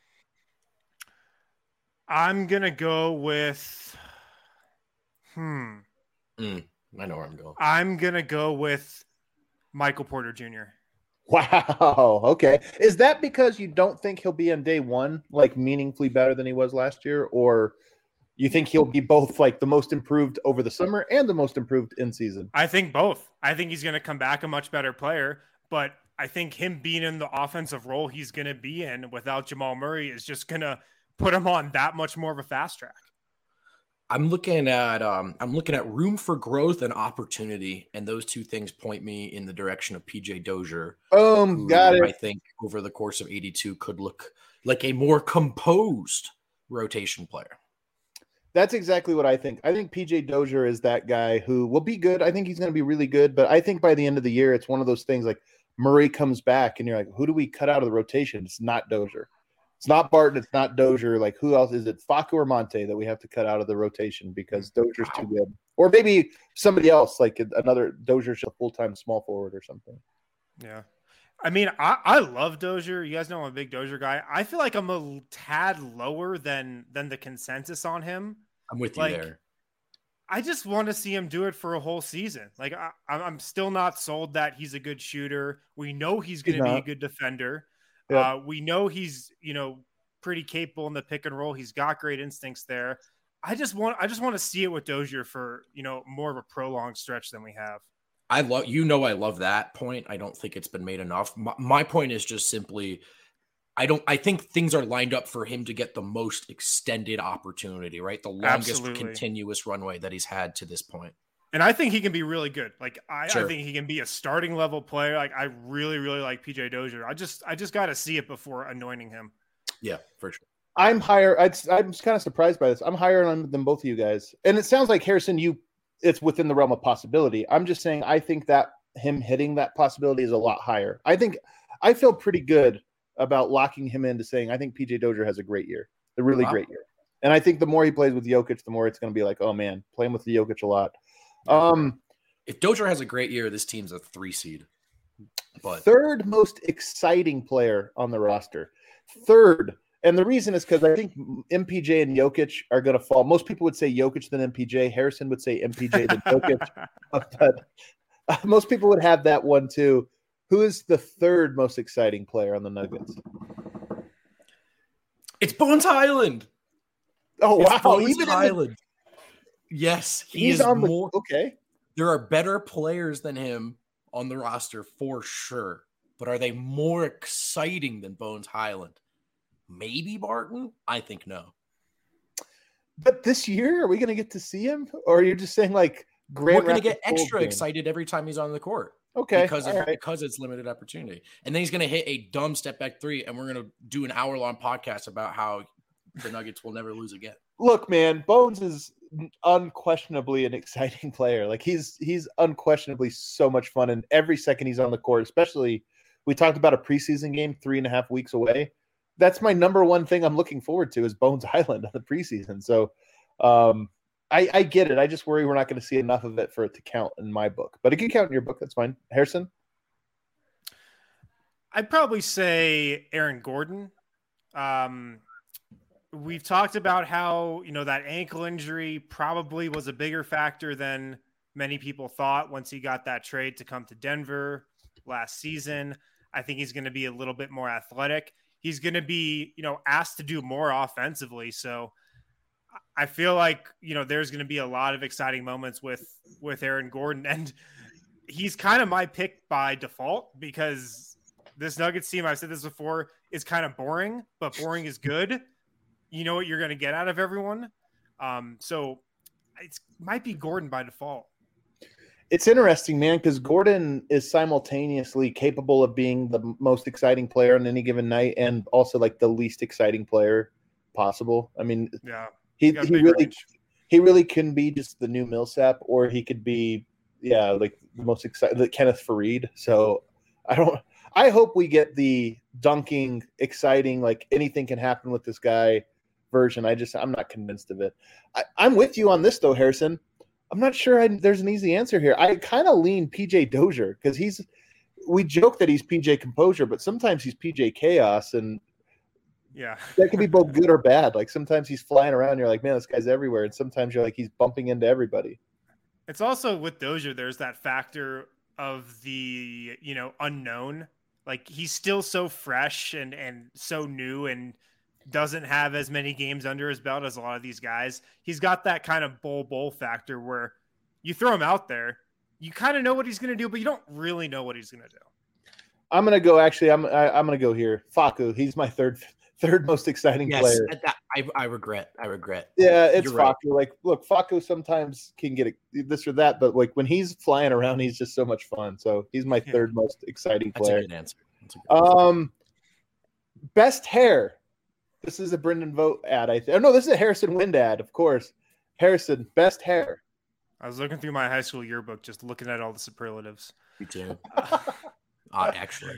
I'm going to go with I know where I'm going. I'm going to go with Michael Porter Jr. Wow. Okay. Is that because you don't think he'll be on day one like meaningfully better than he was last year, or you think he'll be both like the most improved over the summer and the most improved in season? I think both. I think he's going to come back a much better player, but I think him being in the offensive role he's going to be in without Jamal Murray is just going to put him on that much more of a fast track. I'm looking at room for growth and opportunity, and those two things point me in the direction of PJ Dozier. Got it. I think over the course of 82 could look like a more composed rotation player. That's exactly what I think. I think PJ Dozier is that guy who will be good. I think he's going to be really good, but I think by the end of the year, it's one of those things like Murray comes back and you're like, who do we cut out of the rotation? It's not Dozier. It's not Barton. It's not Dozier. Like, who else is it? Facu or Monte that we have to cut out of the rotation because Dozier's too good. Or maybe somebody else, like another Dozier's a full-time small forward or something. Yeah. I mean, I love Dozier. You guys know I'm a big Dozier guy. I feel like I'm a tad lower than the consensus on him. I'm with you there. I just want to see him do it for a whole season. Like, I'm still not sold that he's a good shooter. We know he's going to be a good defender. Yeah. We know he's, pretty capable in the pick and roll. He's got great instincts there. I just want to see it with Dozier for, more of a prolonged stretch than we have. I love that point. I don't think it's been made enough. My point is just simply, I think things are lined up for him to get the most extended opportunity, right? The longest continuous runway that he's had to this point. And I think he can be really good. Like I Sure. think he can be a starting level player. Like I really, really like PJ Dozier. I just got to see it before anointing him. Yeah, for sure. I'm higher. I'm kind of surprised by this. I'm higher on him than both of you guys. And it sounds like Harrison, it's within the realm of possibility. I'm just saying I think that him hitting that possibility is a lot higher. I feel pretty good about locking him into saying I think PJ Dozier has a great year, a really great year. And I think the more he plays with Jokic, the more it's going to be like, oh man, playing with the Jokic a lot. If Dozier has a great year, this team's a 3 seed. But third most exciting player on the roster. Third. And the reason is because I think MPJ and Jokic are going to fall. Most people would say Jokic than MPJ. Harrison would say MPJ than Jokic. But most people would have that one too. Who is the third most exciting player on the Nuggets? it's Bones Highland. Oh, It's wow. Bones Even Highland. Yes, he's is on more. okay. There are better players than him on the roster for sure. But are they more exciting than Bones Highland? Maybe Barton? I think no. But this year, are we going to get to see him? Or are you just saying like We're going to Rapids get extra game? excited every time he's on the court. Okay. Because it's limited opportunity. And then he's going to hit a dumb step back 3, and we're going to do an hour-long podcast about how the Nuggets will never lose again. Look, man, Bones is unquestionably an exciting player. Like he's unquestionably so much fun, and every second he's on the court, especially we talked about a preseason game 3.5 weeks away. That's my number one thing I'm looking forward to is Bones Highland on the preseason. So I get it. I just worry we're not going to see enough of it for it to count in my book. But it can count in your book. That's fine. Harrison? I'd probably say Aaron Gordon. We've talked about how, that ankle injury probably was a bigger factor than many people thought once he got that trade to come to Denver last season. I think he's going to be a little bit more athletic. He's going to be, asked to do more offensively. So I feel like, there's going to be a lot of exciting moments with Aaron Gordon. And he's kind of my pick by default because this Nuggets team, I've said this before, is kind of boring, but boring is good. You know what you're going to get out of everyone. So it might be Gordon by default. It's interesting, man, because Gordon is simultaneously capable of being the most exciting player on any given night and also like the least exciting player possible. I mean, yeah, he really can be just the new Millsap, or he could be, like the most exciting, the Kenneth Faried. So I hope we get the dunking, exciting, like anything can happen with this guy version. I'm not convinced of it. I'm with you on this though, Harrison. I'm not sure there's an easy answer here. I kind of lean PJ Dozier because we joke that he's PJ Composure, but sometimes he's PJ Chaos, and yeah, that can be both good or bad. Like sometimes he's flying around, you're like, man, this guy's everywhere, and sometimes you're like, he's bumping into everybody. It's also with Dozier, there's that factor of the unknown. Like he's still so fresh and so new and doesn't have as many games under his belt as a lot of these guys. He's got that kind of bowl factor where you throw him out there, you kind of know what he's going to do, but you don't really know what he's going to do. I'm going to go. Actually, I'm going to go here. Facu. He's my third most exciting player. I regret. Yeah, it's You're Facu. right. Like, look, Facu sometimes can get this or that, but like when he's flying around, he's just so much fun. So he's my third most exciting That's player. a good answer. Best hair. This is a Brendan Vogt ad. No, this is a Harrison Wind ad, of course. Harrison, best hair. I was looking through my high school yearbook, just looking at all the superlatives. Me too. Actually,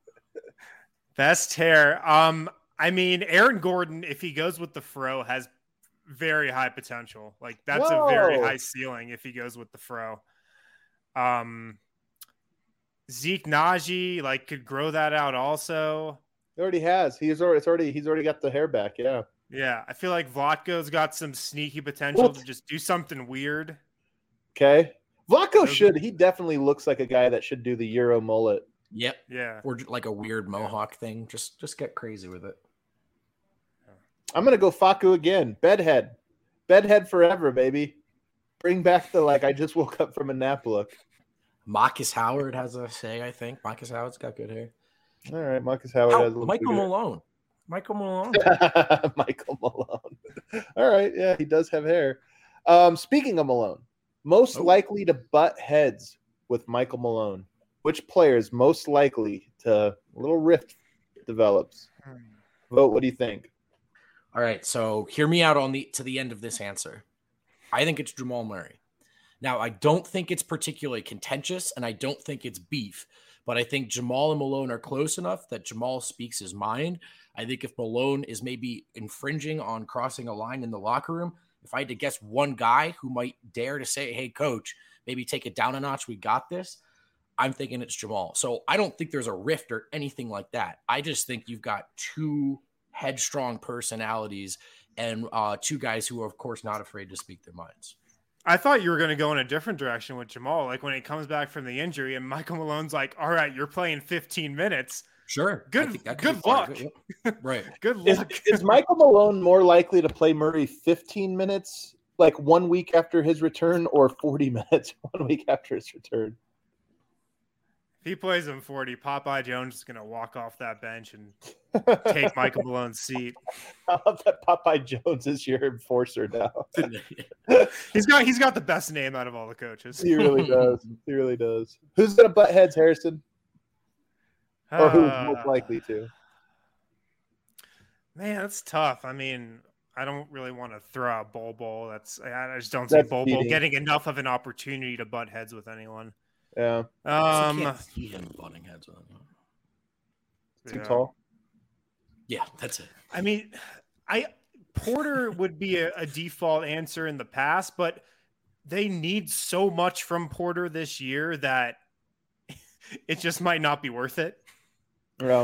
best hair. I mean, Aaron Gordon, if he goes with the fro, has very high potential. Like that's a very high ceiling if he goes with the fro. Zeke Naji could grow that out also. He already has. He's already got the hair back. Yeah. Yeah, I feel like Vlatko's got some sneaky potential to just do something weird. Okay. Vlatko should. He definitely looks like a guy that should do the Euro mullet. Yep. Yeah. Or like a weird mohawk thing. Just get crazy with it. I'm gonna go Facu again. Bedhead forever, baby. Bring back the I just woke up from a nap look. Marcus Howard has a say, I think. Marcus Howard's got good hair. All right, Marcus Howard has a little Michael good hair. Malone. Michael Malone. Michael Malone. All right, yeah, he does have hair. Speaking of Malone, Most likely to butt heads with Michael Malone. Which player is most likely to a little rift develops? Vote. What do you think? All right, so hear me out to the end of this answer. I think it's Jamal Murray. Now, I don't think it's particularly contentious, and I don't think it's beef, but I think Jamal and Malone are close enough that Jamal speaks his mind. I think if Malone is maybe infringing on crossing a line in the locker room, if I had to guess one guy who might dare to say, hey, coach, maybe take it down a notch, we got this, I'm thinking it's Jamal. So I don't think there's a rift or anything like that. I just think you've got two headstrong personalities and two guys who are, of course, not afraid to speak their minds. I thought you were going to go in a different direction with Jamal. Like when he comes back from the injury and Michael Malone's like, all right, you're playing 15 minutes. Sure. Good luck. Right. Good luck. Is Michael Malone more likely to play Murray 15 minutes, like 1 week after his return, or 40 minutes 1 week after his return? If he plays him 40, Popeye Jones is going to walk off that bench and take Michael Malone's seat. I love that Popeye Jones is your enforcer now. He's got the best name out of all the coaches. He really does. He really does. Who's going to butt heads, Harrison? Or who's most likely to? Man, that's tough. I mean, I don't really want to throw out Bol. I just don't see Bol getting enough of an opportunity to butt heads with anyone. Yeah. I can't see him butting heads with anyone. Too tall. Yeah, that's it. I mean, Porter would be a default answer in the past, but they need so much from Porter this year that it just might not be worth it. Yeah.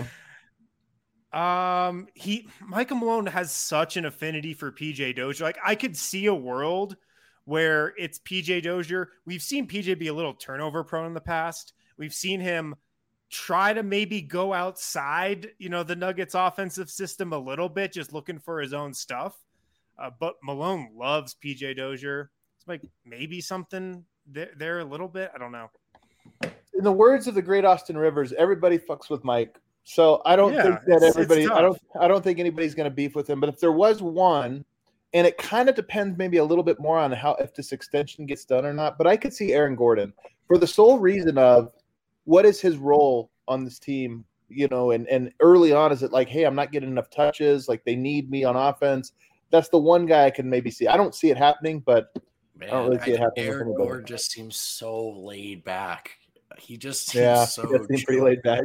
Michael Malone has such an affinity for PJ Dozier. Like I could see a world where it's PJ Dozier. We've seen PJ be a little turnover prone in the past. We've seen him try to maybe go outside, the Nuggets offensive system a little bit, just looking for his own stuff. But Malone loves PJ Dozier. It's like maybe something there a little bit. I don't know. In the words of the great Austin Rivers, everybody fucks with Mike. So I don't think that everybody. I don't think anybody's going to beef with him. But if there was one, and it kind of depends maybe a little bit more on if this extension gets done or not. But I could see Aaron Gordon for the sole reason of what is his role on this team, and early on, is it like, hey, I'm not getting enough touches, like they need me on offense. That's the one guy I can maybe see. I don't see it happening, but man, I don't really see it happening. Aaron Gordon just seems so laid back. He just seems pretty laid back.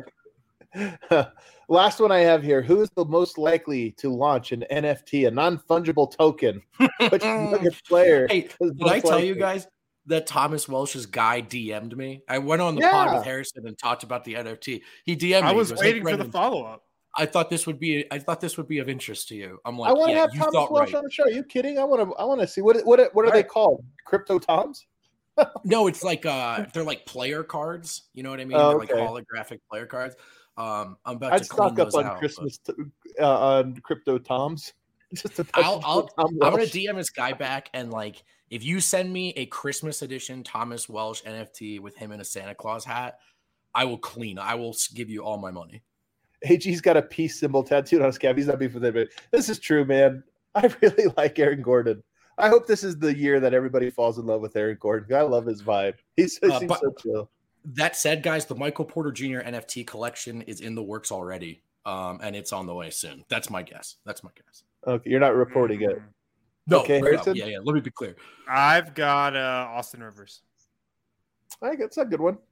Last one I have here. Who is the most likely to launch an NFT, a non-fungible token? Which Nuggets player? Hey, did I tell you guys that Thomas Welsh's guy DM'd me? I went on the pod with Harrison and talked about the NFT. He DM'd me. I was waiting for the follow-up. I thought this would be of interest to you. I'm like, I want to have Thomas Welsh on the show. Are you kidding? I want to see what are they called? Crypto Toms? No, it's like they're like player cards. You know what I mean? Oh, they're like holographic player cards. I'm about I'd to stock up on out, Christmas on Crypto Toms. I'm gonna DM this guy back, and like if you send me a Christmas edition Thomas Welsh NFT with him in a Santa Claus hat, I will give you all my money. AG's got a peace symbol tattooed on his calf. He's not beefing with anybody. This is true, man. I really like Aaron Gordon. I hope this is the year that everybody falls in love with Aaron Gordon. I love his vibe. He seems so chill. That said, guys, the Michael Porter Jr. NFT collection is in the works already, and it's on the way soon. That's my guess. Okay, you're not reporting it. No, okay, Harrison? Yeah. Let me be clear. I've got Austin Rivers. I think that's a good one.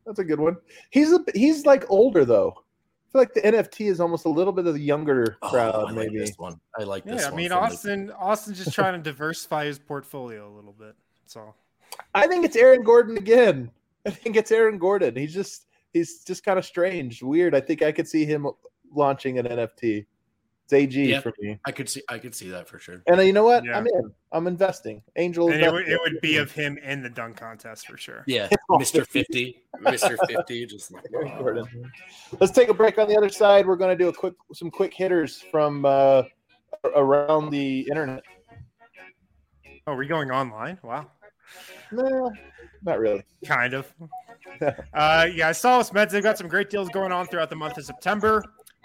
He's like older though. I feel like the NFT is almost a little bit of the younger crowd. Maybe this one. I like this. Yeah, I mean Austin's just trying to diversify his portfolio a little bit. That's all. I think it's Aaron Gordon again. He's just kind of strange, weird. I think I could see him launching an NFT. It's AG for me. I could see that for sure. And you know what? Yeah. I'm investing. Angel. And it would be of him in the dunk contest for sure. Yeah, Mr. 50, Mr. 50. Just like Gordon. Let's take a break. On the other side, we're going to do some quick hitters from around the internet. Oh, are we going online? Wow. No, not really. Kind of. I saw Meds. They've got some great deals going on throughout the month of September.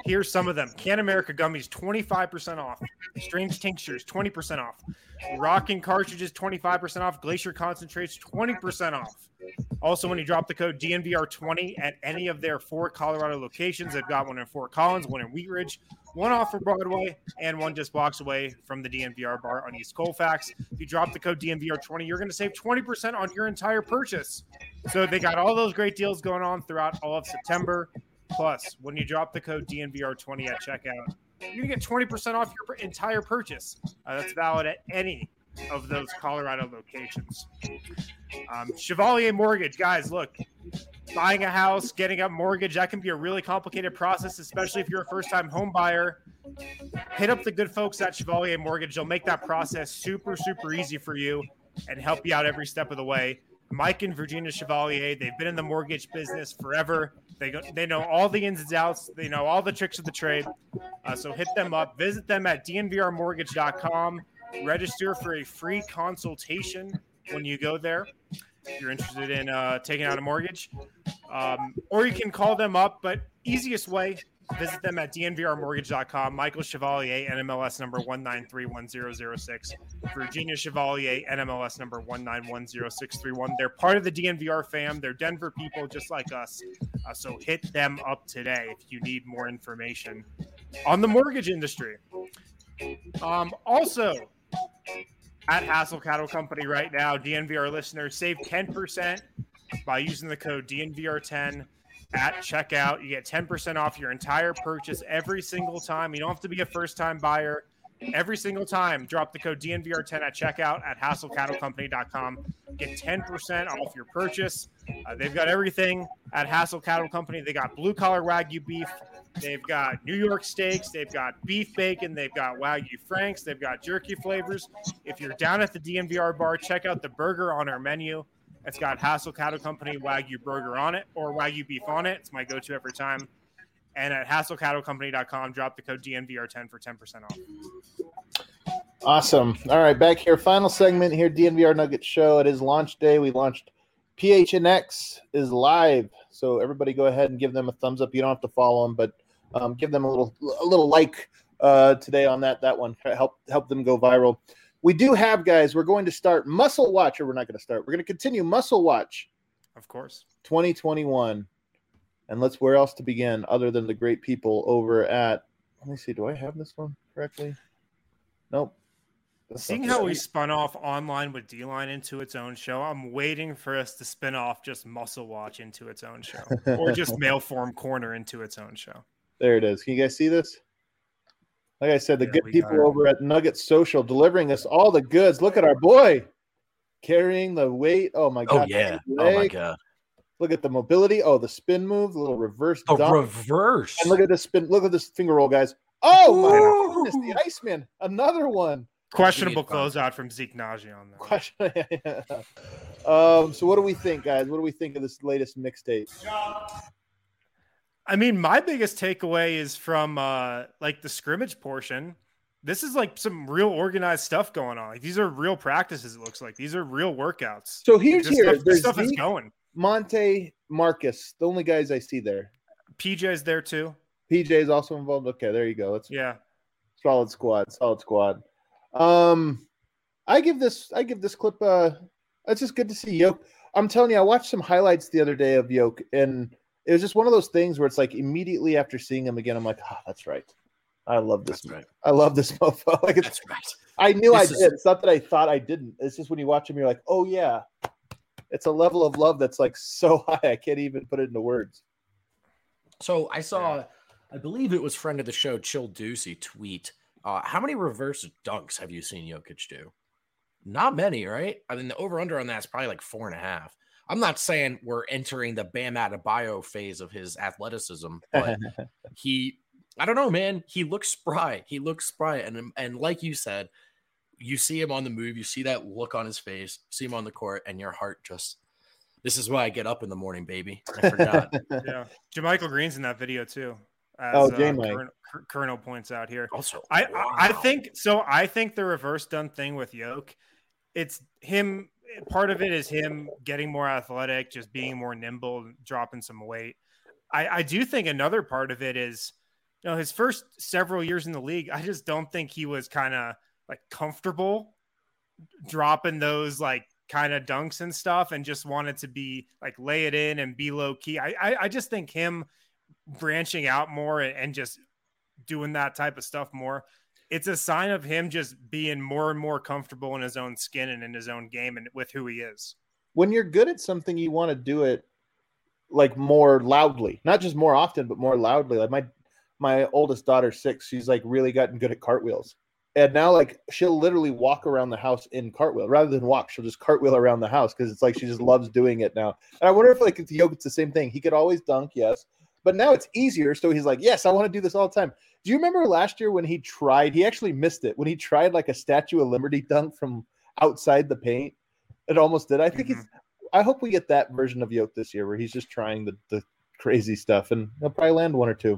Here's some of them. Can America gummies, 25% off. Strange tinctures, 20% off. Rockin' cartridges, 25% off. Glacier concentrates, 20% off. Also, when you drop the code DNVR20 at any of their 4 Colorado locations, they've got one in Fort Collins, one in Wheat Ridge, one off of Broadway, and one just blocks away from the DNVR bar on East Colfax. If you drop the code DNVR20, you're going to save 20% on your entire purchase. So they got all those great deals going on throughout all of September. Plus, when you drop the code DNVR20 at checkout, you're going to get 20% off your entire purchase. That's valid at any of those Colorado locations. Chevalier Mortgage, guys, look, buying a house, getting a mortgage, that can be a really complicated process, especially if you're a first-time home buyer. Hit up the good folks at Chevalier Mortgage. They'll make that process super, super easy for you and help you out every step of the way. Mike and Virginia Chevalier, they've been in the mortgage business forever. They know all the ins and outs. They know all the tricks of the trade. So hit them up. Visit them at dnvrmortgage.com. Register for a free consultation when you go there if you're interested in taking out a mortgage. Or you can call them up, but easiest way, visit them at dnvrmortgage.com. Michael Chevalier, NMLS number 1931006. Virginia Chevalier, NMLS number 1910631. They're part of the DNVR fam. They're Denver people just like us. So hit them up today if you need more information on the mortgage industry. Also, at Hassel Cattle Company right now, DNVR listeners save 10% by using the code DNVR10 at checkout. You get 10% off your entire purchase every single time. You don't have to be a first-time buyer. Every single time, drop the code DNVR10 at checkout at HassleCattleCompany.com. Get 10% off your purchase. They've got everything at Hassel Cattle Company. They got blue-collar Wagyu beef. They've got New York steaks. They've got beef bacon. They've got Wagyu Franks. They've got jerky flavors. If you're down at the DNVR bar, check out the burger on our menu. It's got Hassel Cattle Company Wagyu burger on it or Wagyu beef on it. It's my go-to every time. And at HassleCattleCompany.com, drop the code DNVR10 for 10% off. Awesome. All right, back here. Final segment here, DNVR Nuggets Show. It is launch day. We launched PHNX is live. So everybody go ahead and give them a thumbs up. You don't have to follow them, but give them a little like today on that one. Help them go viral. We do have, guys, we're going to start Muscle Watch, or we're not going to start. We're going to continue Muscle Watch. Of course. 2021. And where else to begin other than the great people over at, let me see, do I have this one correctly? Nope. Seeing how we spun off Online with D-Line into its own show, I'm waiting for us to spin off just Muscle Watch into its own show or just Mailform Corner into its own show. There it is. Can you guys see this? Like I said, the good people over at Nugget Social delivering us all the goods. Look at our boy carrying the weight. Oh, my God. Oh, yeah. Oh, my God. Look at the mobility. Oh, the spin move, the little reverse dunk. Reverse. And look at this spin. Look at this finger roll, guys. Oh, my goodness. The Iceman. Another one. Questionable closeout from Zeke Naji on that. So what do we think, guys? What do we think of this latest mixtape? I mean, my biggest takeaway is from like the scrimmage portion. This is like some real organized stuff going on. Like these are real practices. It looks like these are real workouts. So here's this stuff is going. Monte, Marcus, the only guys I see there. PJ's there too. PJ is also involved. Okay, there you go. Solid squad. I give this clip. It's just good to see Yoke. I'm telling you, I watched some highlights the other day of Yoke, and it was just one of those things where it's like immediately after seeing him again, I'm like, that's right. I love this. That's right. I love this mofo. Like that's right. I knew I did. It's not that I thought I didn't. It's just when you watch him, you're like, oh yeah. It's a level of love that's like so high, I can't even put it into words. So I saw, I believe it was friend of the show, Chill Deucey, tweet. How many reverse dunks have you seen Jokic do? Not many, right? I mean, the over-under on that is probably like 4.5. I'm not saying we're entering the Bam Adebayo phase of his athleticism, but I don't know, man. He looks spry. And like you said, you see him on the move, you see that look on his face, see him on the court, and your heart just, this is why I get up in the morning, baby. I forgot. Yeah. JaMychal Green's in that video too. As Colonel points out here. Also, I think the reverse dunk thing with Yoke, it's him. Part of it is him getting more athletic, just being more nimble, dropping some weight. I do think another part of it is his first several years in the league, I just don't think he was kind of like comfortable dropping those like kind of dunks and stuff, and just wanted to be like lay it in and be low key. I just think him branching out more and just doing that type of stuff more, it's a sign of him just being more and more comfortable in his own skin and in his own game and with who he is. When you're good at something, you want to do it like more loudly, not just more often, but more loudly. Like my oldest daughter's 6. She's like really gotten good at cartwheels. And now like she'll literally walk around the house in cartwheel rather than walk. She'll just cartwheel around the house because it's like she just loves doing it now. And I wonder if like Jokic's the same thing. He could always dunk, yes, but now it's easier. So he's like, yes, I want to do this all the time. Do you remember last year when he actually missed it, when he tried like a Statue of Liberty dunk from outside the paint? It almost did. I think I hope we get that version of Yoke this year where he's just trying the crazy stuff, and he'll probably land one or two.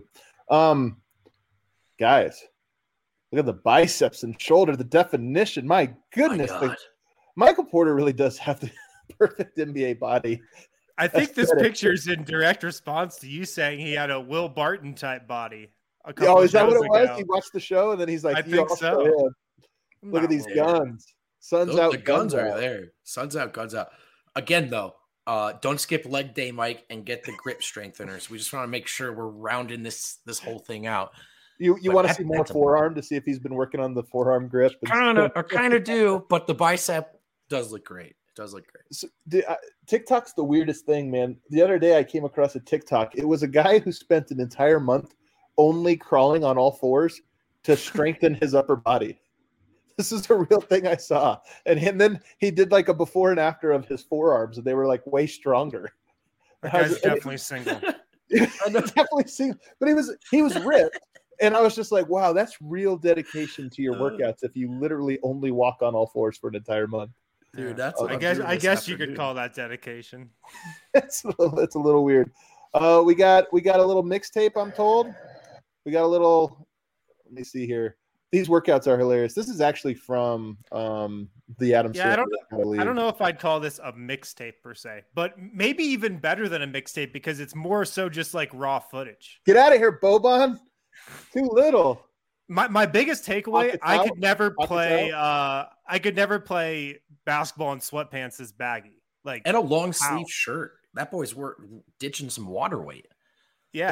Guys, look at the biceps and shoulder, the definition. My goodness. Michael Porter really does have the perfect NBA body. I think this picture's in direct response to you saying he had a Will Barton type body. Oh, is that what it was? He watched the show and then he's like, I think so. Look at these guns. Sun's out. The guns are there. Sun's out, guns out. Again, though, don't skip leg day, Mike, and get the grip strengtheners. We just want to make sure we're rounding this whole thing out. You want to see more forearm to see if he's been working on the forearm grip? Kind of do, but the bicep does look great. It does look great. So, TikTok's the weirdest thing, man. The other day I came across a TikTok. It was a guy who spent an entire month only crawling on all fours to strengthen his upper body. This is a real thing I saw. And then he did like a before and after of his forearms, and they were like way stronger. That guy's definitely single. Definitely single. But he was ripped. And I was just like, wow, that's real dedication to your workouts if you literally only walk on all fours for an entire month. Dude, that's I guess you could call that dedication. It's a little weird. We got a little mixtape, I'm told. We got a little, let me see here. These workouts are hilarious. This is actually from the Adam Sandler. I don't know if I'd call this a mixtape per se, but maybe even better than a mixtape because it's more so just like raw footage. Get out of here, Boban. Too little. My biggest takeaway, I could never play basketball in sweatpants as baggy. Like and a long sleeve shirt. That boy's ditching some water weight. Yeah.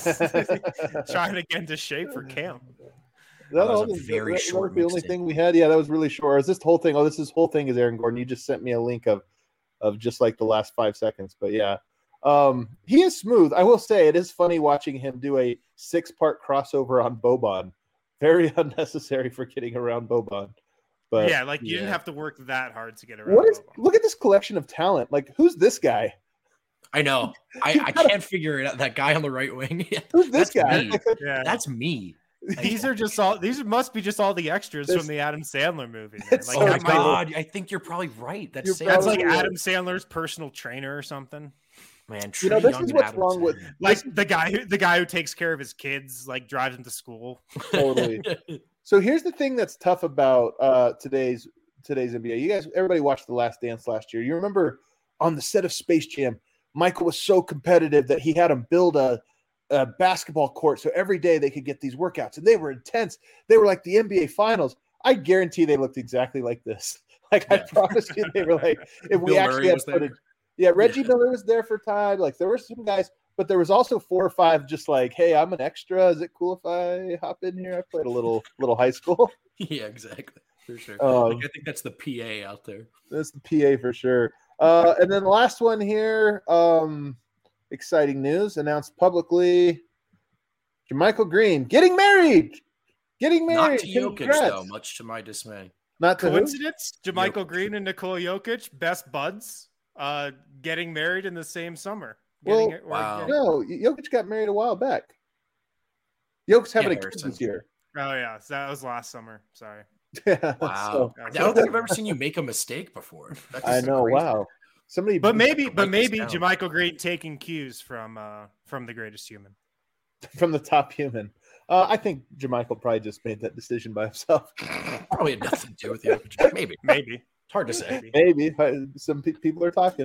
Trying to get into shape for camp. That was a very short. The only thing we had, yeah, that was really short. Is this whole thing? Oh, this whole thing is Aaron Gordon. You just sent me a link of just like the last 5 seconds. But yeah, he is smooth. I will say it is funny watching him do a 6-part crossover on Boban. Very unnecessary for getting around Boban. But yeah, like you didn't have to work that hard to get around. Look at this collection of talent. Like, who's this guy? I know. I can't figure it out. That guy on the right wing. Who's this guy? Yeah. That's me. These must be just all the extras from the Adam Sandler movie. Like, oh my God. I think you're probably right. That's like Adam Sandler's personal trainer or something. Man, this is what's wrong with like the guy who takes care of his kids, like drives them to school. Totally. So here's the thing that's tough about today's NBA. You guys, everybody watched The Last Dance last year. You remember on the set of Space Jam, Michael was so competitive that he had him build a basketball court so every day they could get these workouts, and they were intense. They were like the NBA Finals. I guarantee they looked exactly like this. Like I promise you, they were like if we actually had footage. Yeah, Reggie Miller was there for time. Like there were some guys, but there was also 4 or 5 just like, hey, I'm an extra. Is it cool if I hop in here? I played a little high school. Yeah, exactly. For sure. I think that's the PA out there. That's the PA for sure. And then the last one here, exciting news announced publicly. JaMychal Green getting married. Not to Jokic, though, much to my dismay. Not to coincidence. JaMychal Green and Nikola Jokic, best buds, getting married in the same summer. No, Jokic got married a while back. Jokic's having a kid this year. Oh yeah, so that was last summer. Sorry. Yeah, wow. I don't think I've ever seen you make a mistake before. I know. Crazy. Wow. Somebody, but maybe JaMychal Green taking cues from the greatest human, from the top human. I think JaMychal probably just made that decision by himself. Probably had nothing to do with you. Maybe. It's hard to say. Maybe some people are talking.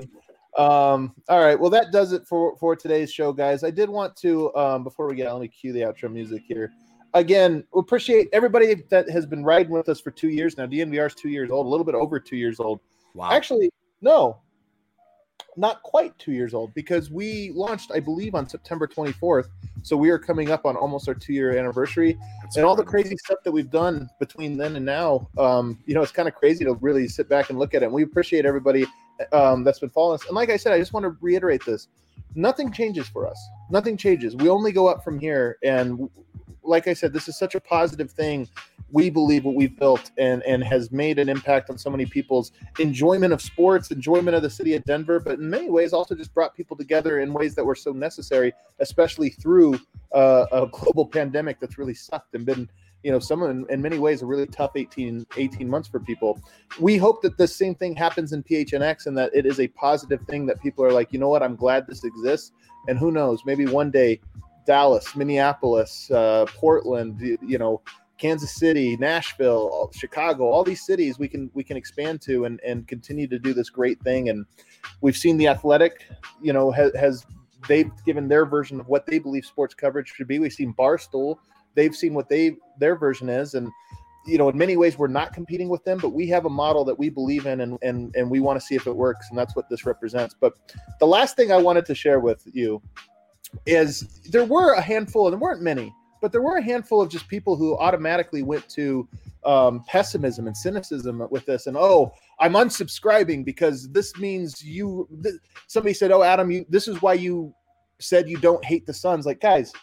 All right. Well, that does it for today's show, guys. I did want to, before we get, let me cue the outro music here. Again, we appreciate everybody that has been riding with us for 2 years now. DNVR is 2 years old, a little bit over 2 years old. Wow. Actually, no, not quite 2 years old, because we launched, I believe, on September 24th. So we are coming up on almost our 2-year anniversary. That's and all the crazy stuff that we've done between then and now. It's kind of crazy to really sit back and look at it. And we appreciate everybody that's been following us. And like I said, I just want to reiterate this. Nothing changes for us. Nothing changes. We only go up from here. And like I said, this is such a positive thing. We believe what we've built and has made an impact on so many people's enjoyment of sports, enjoyment of the city of Denver, but in many ways also just brought people together in ways that were so necessary, especially through a global pandemic that's really sucked and been, some in many ways a really tough 18 months for people. We hope that the same thing happens in PHNX and that it is a positive thing that people are like, you know what, I'm glad this exists. And who knows, maybe one day Dallas, Minneapolis, Portland, Kansas City, Nashville, Chicago, all these cities we can expand to and continue to do this great thing. And we've seen The Athletic, they've given their version of what they believe sports coverage should be. We've seen Barstool, they've seen what their version is. And, in many ways we're not competing with them, but we have a model that we believe in and we want to see if it works. And that's what this represents. But the last thing I wanted to share with you is there were a handful, and there weren't many, but there were a handful of just people who automatically went to pessimism and cynicism with this. And, I'm unsubscribing because this means somebody said, Adam, this is why you said you don't hate the Suns. Like, guys,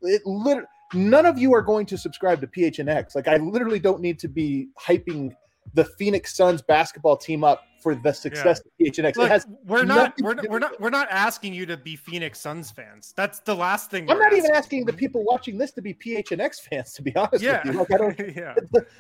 none of you are going to subscribe to PHNX. Like, I literally don't need to be hyping the Phoenix Suns basketball team up for the success of PHNX. Look, we're not asking you to be Phoenix Suns fans. That's the last thing. I'm not even asking the people watching this to be PHNX fans, to be honest with you. Like, I don't. Yeah.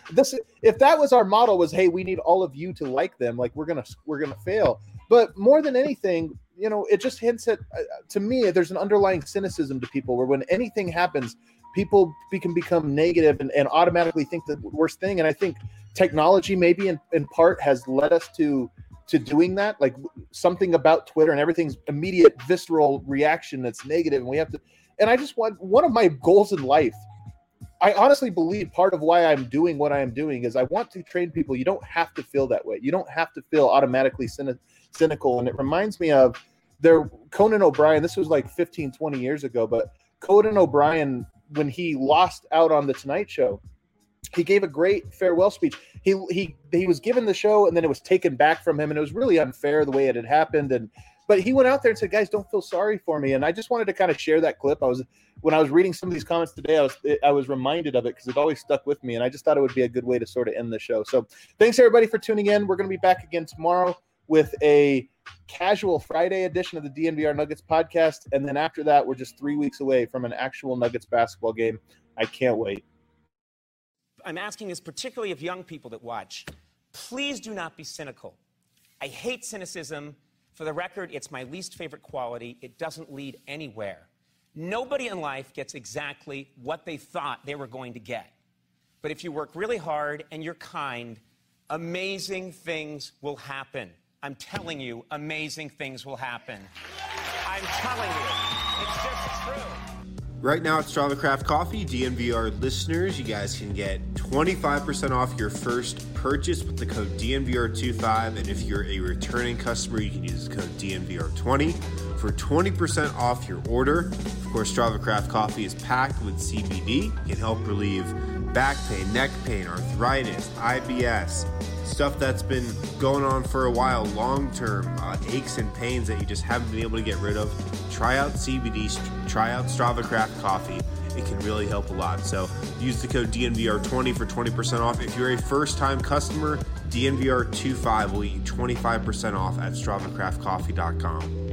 If that was our model, was, hey, we need all of you to like them, like we're gonna fail. But more than anything, it just hints at, to me, there's an underlying cynicism to people where when anything happens, people can become negative and automatically think the worst thing. And I think technology maybe in part has led us to doing that. Like, something about Twitter and everything's immediate visceral reaction that's negative. And we have to, and I just want, one of my goals in life, I honestly believe part of why I'm doing what I am doing is I want to train people. You don't have to feel that way. You don't have to feel automatically cynical. And it reminds me of Conan O'Brien. This was like 15, 20 years ago, but Conan O'Brien, when he lost out on The Tonight Show, he gave a great farewell speech. He was given the show and then it was taken back from him, and it was really unfair the way it had happened. But he went out there and said, guys, don't feel sorry for me. And I just wanted to kind of share that clip. When I was reading some of these comments today, I was reminded of it because it always stuck with me. And I just thought it would be a good way to sort of end the show. So thanks everybody for tuning in. We're going to be back again tomorrow with a casual Friday edition of the DNVR Nuggets podcast. And then after that, we're just 3 weeks away from an actual Nuggets basketball game. I can't wait. I'm asking this particularly of young people that watch. Please do not be cynical. I hate cynicism. For the record, it's my least favorite quality. It doesn't lead anywhere. Nobody in life gets exactly what they thought they were going to get. But if you work really hard and you're kind, amazing things will happen. I'm telling you, amazing things will happen. I'm telling you. It's just true. Right now at Strava Craft Coffee, DNVR listeners, you guys can get 25% off your first purchase with the code DNVR25. And if you're a returning customer, you can use the code DNVR20 for 20% off your order. Of course, Strava Craft Coffee is packed with CBD. It can help relieve back pain, neck pain, arthritis, IBS, stuff that's been going on for a while, long-term aches and pains that you just haven't been able to get rid of. Try out CBD, try out Strava Craft Coffee. It can really help a lot. So use the code DNVR20 for 20% off. If you're a first-time customer, DNVR25 will get you 25% off at StravaCraftCoffee.com.